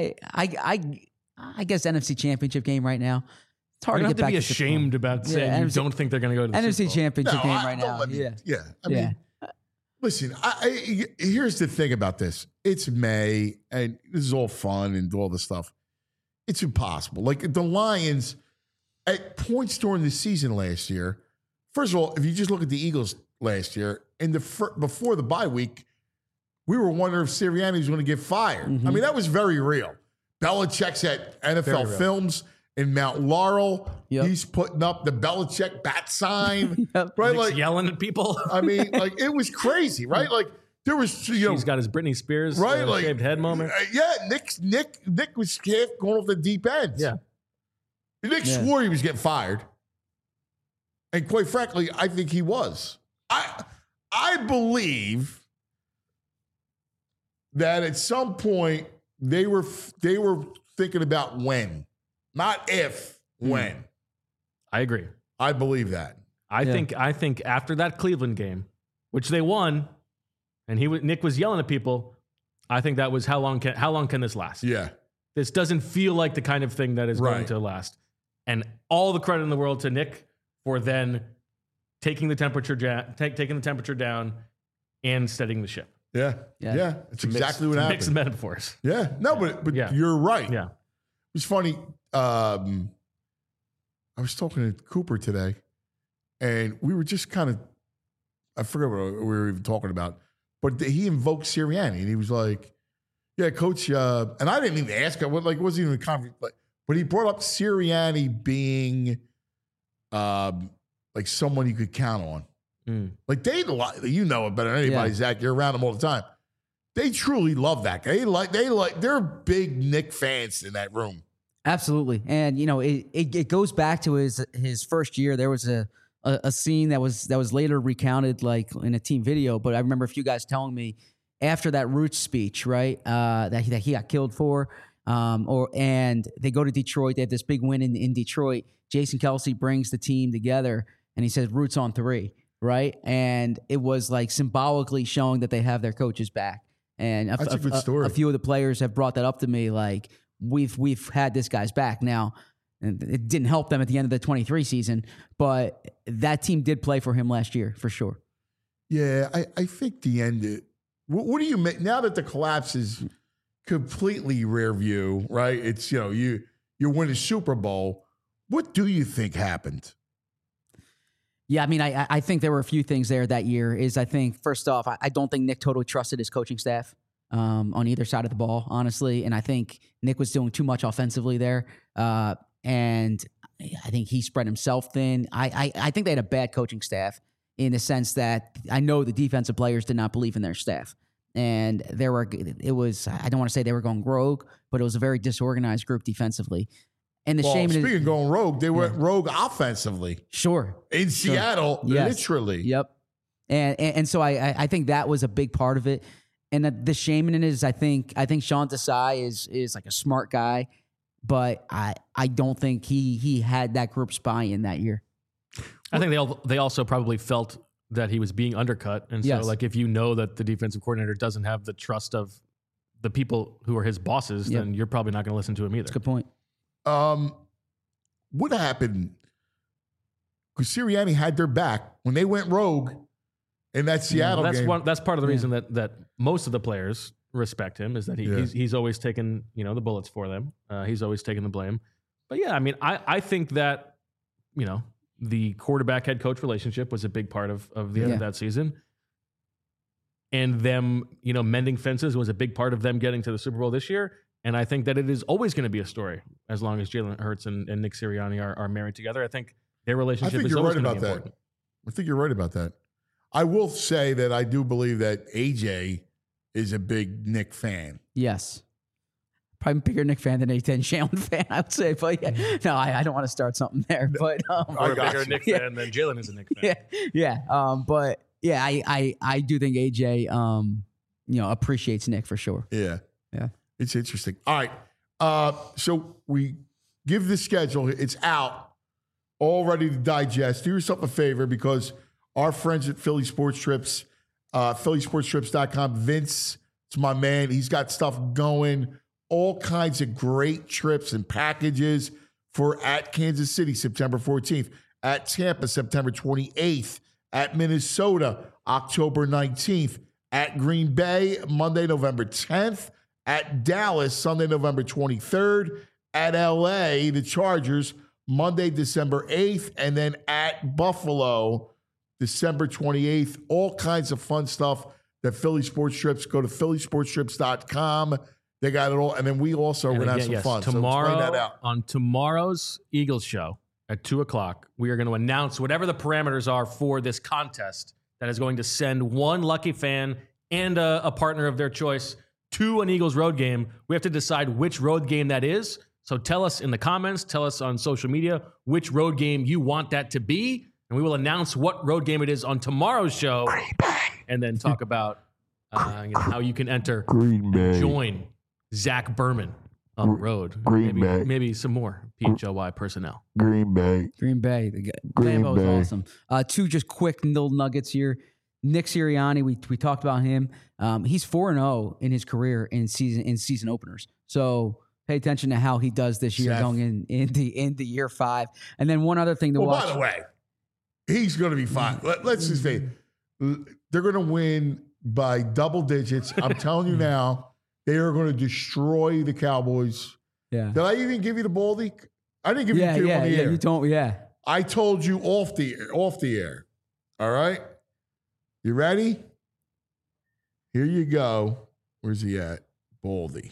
I guess NFC Championship game right now. It's hard you to don't get have to back be ashamed about saying you don't think they're going to go to the NFC Super Bowl. Championship game right now. I mean, listen, here's the thing about this. It's May, and this is all fun and all this stuff. It's impossible. Like the Lions, at points during the season last year, first of all, if you just look at the Eagles last year, before the bye week, we were wondering if Sirianni was going to get fired. I mean, that was very real. Belichick's at NFL Films in Mount Laurel. Yep. He's putting up the Belichick bat sign. Right? Like yelling at people. I mean, like it was crazy, right? Like there was, he's got his Britney Spears shaved head moment. Nick was half going off the deep end. Yeah. Nick swore he was getting fired. And quite frankly, I think he was. I believe that at some point they were thinking about when, not if, when. I agree. I believe that. I think after that Cleveland game, which they won, and Nick was yelling at people, I think that was how long can this last? Yeah. This doesn't feel like the kind of thing that is going to last. And all the credit in the world to Nick for then taking the temperature down and steadying the ship. Yeah. It's exactly what happened. Mixed metaphors. Yeah. No, but you're right. Yeah. It's funny. I was talking to Cooper today, and we were just kind of, I forget what we were even talking about, but he invoked Sirianni, and he was like, yeah, coach, and I didn't even ask him, it wasn't even a conference, but he brought up Sirianni being like someone you could count on. Like you know it better than anybody, Zach. You're around them all the time. They truly love that guy. They're big Nick fans in that room. Absolutely, and it goes back to his first year. There was a scene that was later recounted like in a team video. But I remember a few guys telling me after that Roots speech, right, that he got killed for, and they go to Detroit. They have this big win in Detroit. Jason Kelce brings the team together, and he says Roots on 3. Right. And it was like symbolically showing that they have their coaches back. And that's a good story. A few of the players have brought that up to me. Like we've had this guy's back now. And it didn't help them at the end of the 23 season, but that team did play for him last year for sure. Yeah. I think the end, what do you make now that the collapse is completely rear view, right? It's, you win a Super Bowl. What do you think happened? Yeah, I mean, I think there were a few things there that year. I think, first off, I don't think Nick totally trusted his coaching staff on either side of the ball, honestly. And I think Nick was doing too much offensively there. And I think he spread himself thin. I think they had a bad coaching staff in the sense that I know the defensive players did not believe in their staff. And I don't want to say they were going rogue, but it was a very disorganized group defensively. And the Well, shame speaking is of going rogue, they went rogue offensively sure. in Seattle, Yes. literally. Yep. And so I think that was a big part of it. And the shame in it is I think Sean Desai is like a smart guy, but I don't think he had that group's buy-in that year. I think they also probably felt that he was being undercut. And so Yes. like if you know that the defensive coordinator doesn't have the trust of the people who are his bosses, Yep. then you're probably not going to listen to him either. That's a good point. What happened? Because Sirianni had their back when they went rogue in that Seattle game. That's part of the reason that most of the players respect him, is that he's always taken the bullets for them. He's always taken the blame. But yeah, I mean, I think that the quarterback head coach relationship was a big part of the end of that season, and them mending fences was a big part of them getting to the Super Bowl this year. And I think that it is always going to be a story as long as Jalen Hurts and Nick Sirianni are married together. I think their relationship is always going to be important. I think you're right about that. I will say that I do believe that AJ is a big Nick fan. Yes. Probably a bigger Nick fan than a Jalen fan, I would say. But yeah, no, I don't want to start something there. But Or a bigger Nick fan than Jalen is a Nick fan. But yeah, I do think AJ appreciates Nick for sure. Yeah. Yeah. It's interesting. All right. So we give the schedule. It's out, all ready to digest. Do yourself a favor, because our friends at Philly Sports Trips, phillysportstrips.com, Vince, it's my man. He's got stuff going, all kinds of great trips and packages for at Kansas City, September 14th, at Tampa, September 28th, at Minnesota, October 19th, at Green Bay, Monday, November 10th, at Dallas, Sunday, November 23rd, at LA, the Chargers, Monday, December 8th, and then at Buffalo, December 28th. All kinds of fun stuff that Philly Sports Trips. Go to phillysportstrips.com. They got it all. And then we also are going to have some fun. Tomorrow, so explain that out. On tomorrow's Eagles show at 2:00, we are going to announce whatever the parameters are for this contest that is going to send one lucky fan and a partner of their choice to an Eagles road game. We have to decide which road game that is. So tell us in the comments, tell us on social media which road game you want that to be, and we will announce what road game it is on tomorrow's show, and then talk about how you can enter Green Bay. and join Zach Berman on the road. Maybe some more PHLY personnel. Green Bay. The Lambeau is awesome. Two just quick little nuggets here. Nick Sirianni, we talked about him. He's 4-0 in his career in season openers. So pay attention to how he does this year, going into year 5. And then one other thing to watch. By the way, he's going to be fine. Let's just say they're going to win by double digits. I'm telling you now, they are going to destroy the Cowboys. Yeah. Did I even give you the Baldy? I didn't give you the on the air. Yeah, you told me. Yeah. I told you off the air. All right. You ready? Here you go. Where's he at? Baldy.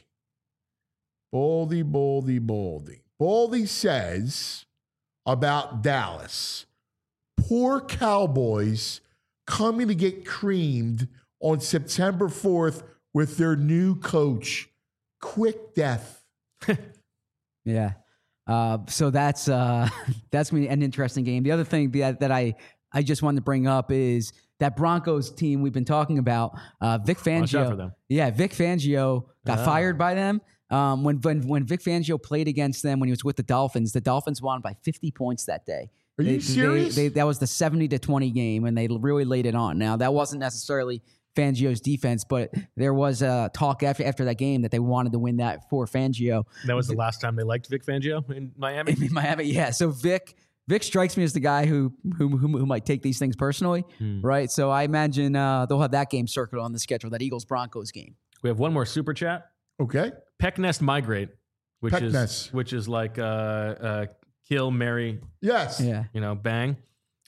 Baldy says about Dallas, poor Cowboys coming to get creamed on September 4th with their new coach. Quick death. Yeah. So that's gonna be an interesting game. The other thing that I just wanted to bring up is that Broncos team we've been talking about. Vic Fangio. Watch out for them. Yeah, Vic Fangio got fired by them. When Vic Fangio played against them when he was with the Dolphins won by 50 points that day. Are you serious? That was the 70-20 game, and they really laid it on. Now, that wasn't necessarily Fangio's defense, but there was a talk after that game that they wanted to win that for Fangio. That was the last time they liked Vic Fangio in Miami? In Miami, yeah. So Vic strikes me as the guy who might take these things personally, right? So I imagine they'll have that game circled on the schedule, that Eagles-Broncos game. We have one more super chat. Okay. Pecknest Migrate, which Pecknest. is like kill, marry, Yes. Yeah. bang.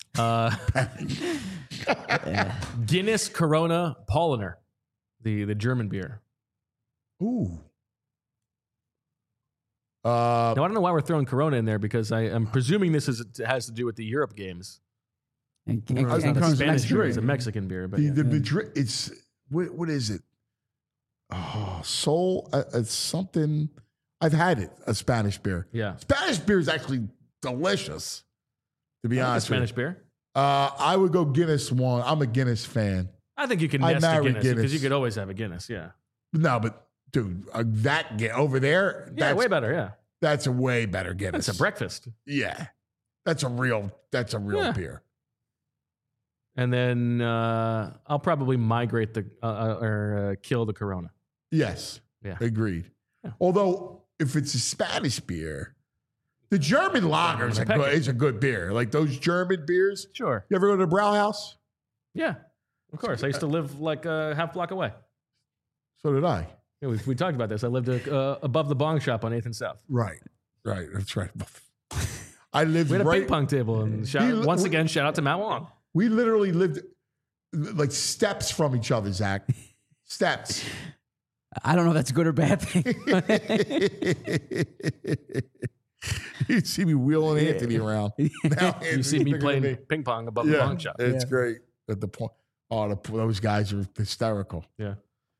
Guinness Corona Paulaner, the German beer. Ooh. Now, I don't know why we're throwing Corona in there, because I'm presuming this has to do with the Europe games. And It's not a Corona's Spanish beer, Mexican. it's a Mexican beer. But the Madrid, it's, what is it? Oh, Soul, it's something. I've had it, a Spanish beer. Yeah. Spanish beer is actually delicious, to be I like a honest with you. Spanish beer. I would go Guinness one. I'm a Guinness fan. I think you can I nest a marry Guinness because Guinness. you could always have a Guinness. Yeah. No, but dude, over there, Yeah, way better. Yeah. that's a way better Guinness. That's a breakfast. Yeah. That's a real Yeah. beer. And then I'll probably migrate kill the Corona. Yes. Yeah. Agreed. Yeah. Although, if it's a Spanish beer, the German lager is a good beer. Like those German beers. Sure. You ever go to the Brauhaus? Yeah. Of course. I used to live like a half block away. So did I. Yeah, we talked about this. I lived above the bong shop on 8th and South. Right. Right. That's right. I lived We had a right. ping pong table. And shout out to Matt Wong. We literally lived like steps from each other, Zach. Steps. I don't know if that's a good or bad thing. You see me wheeling Anthony around. Now You see me playing ping pong above the bong shop. It's great at the point. Oh, those guys are hysterical. Yeah.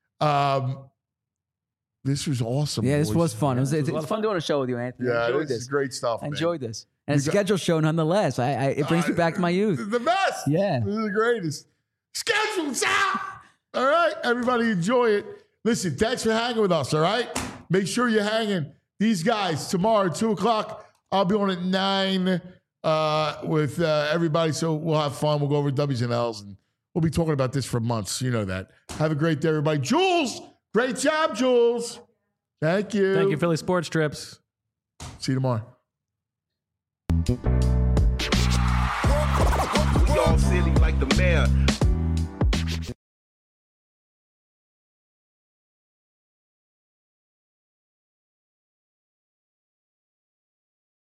This was awesome. Yeah, this boys. was fun. Yeah, It's fun doing a show with you, Anthony. I Yeah, enjoyed this is great stuff. I man. enjoyed this. And a You got- schedule show nonetheless. It brings me back to my youth. The best. Yeah. This is the greatest. Schedule out. All right, everybody enjoy it. Listen, thanks for hanging with us, all right? Make sure you're hanging. These guys, tomorrow, 2 o'clock, I'll be on at 9 with everybody, so we'll have fun. We'll go over W's and L's, and we'll be talking about this for months. You know that. Have a great day, everybody. Jules, great job, Jules. Thank you. Thank you, Philly Sports Trips. See you tomorrow. We all silly like the mayor.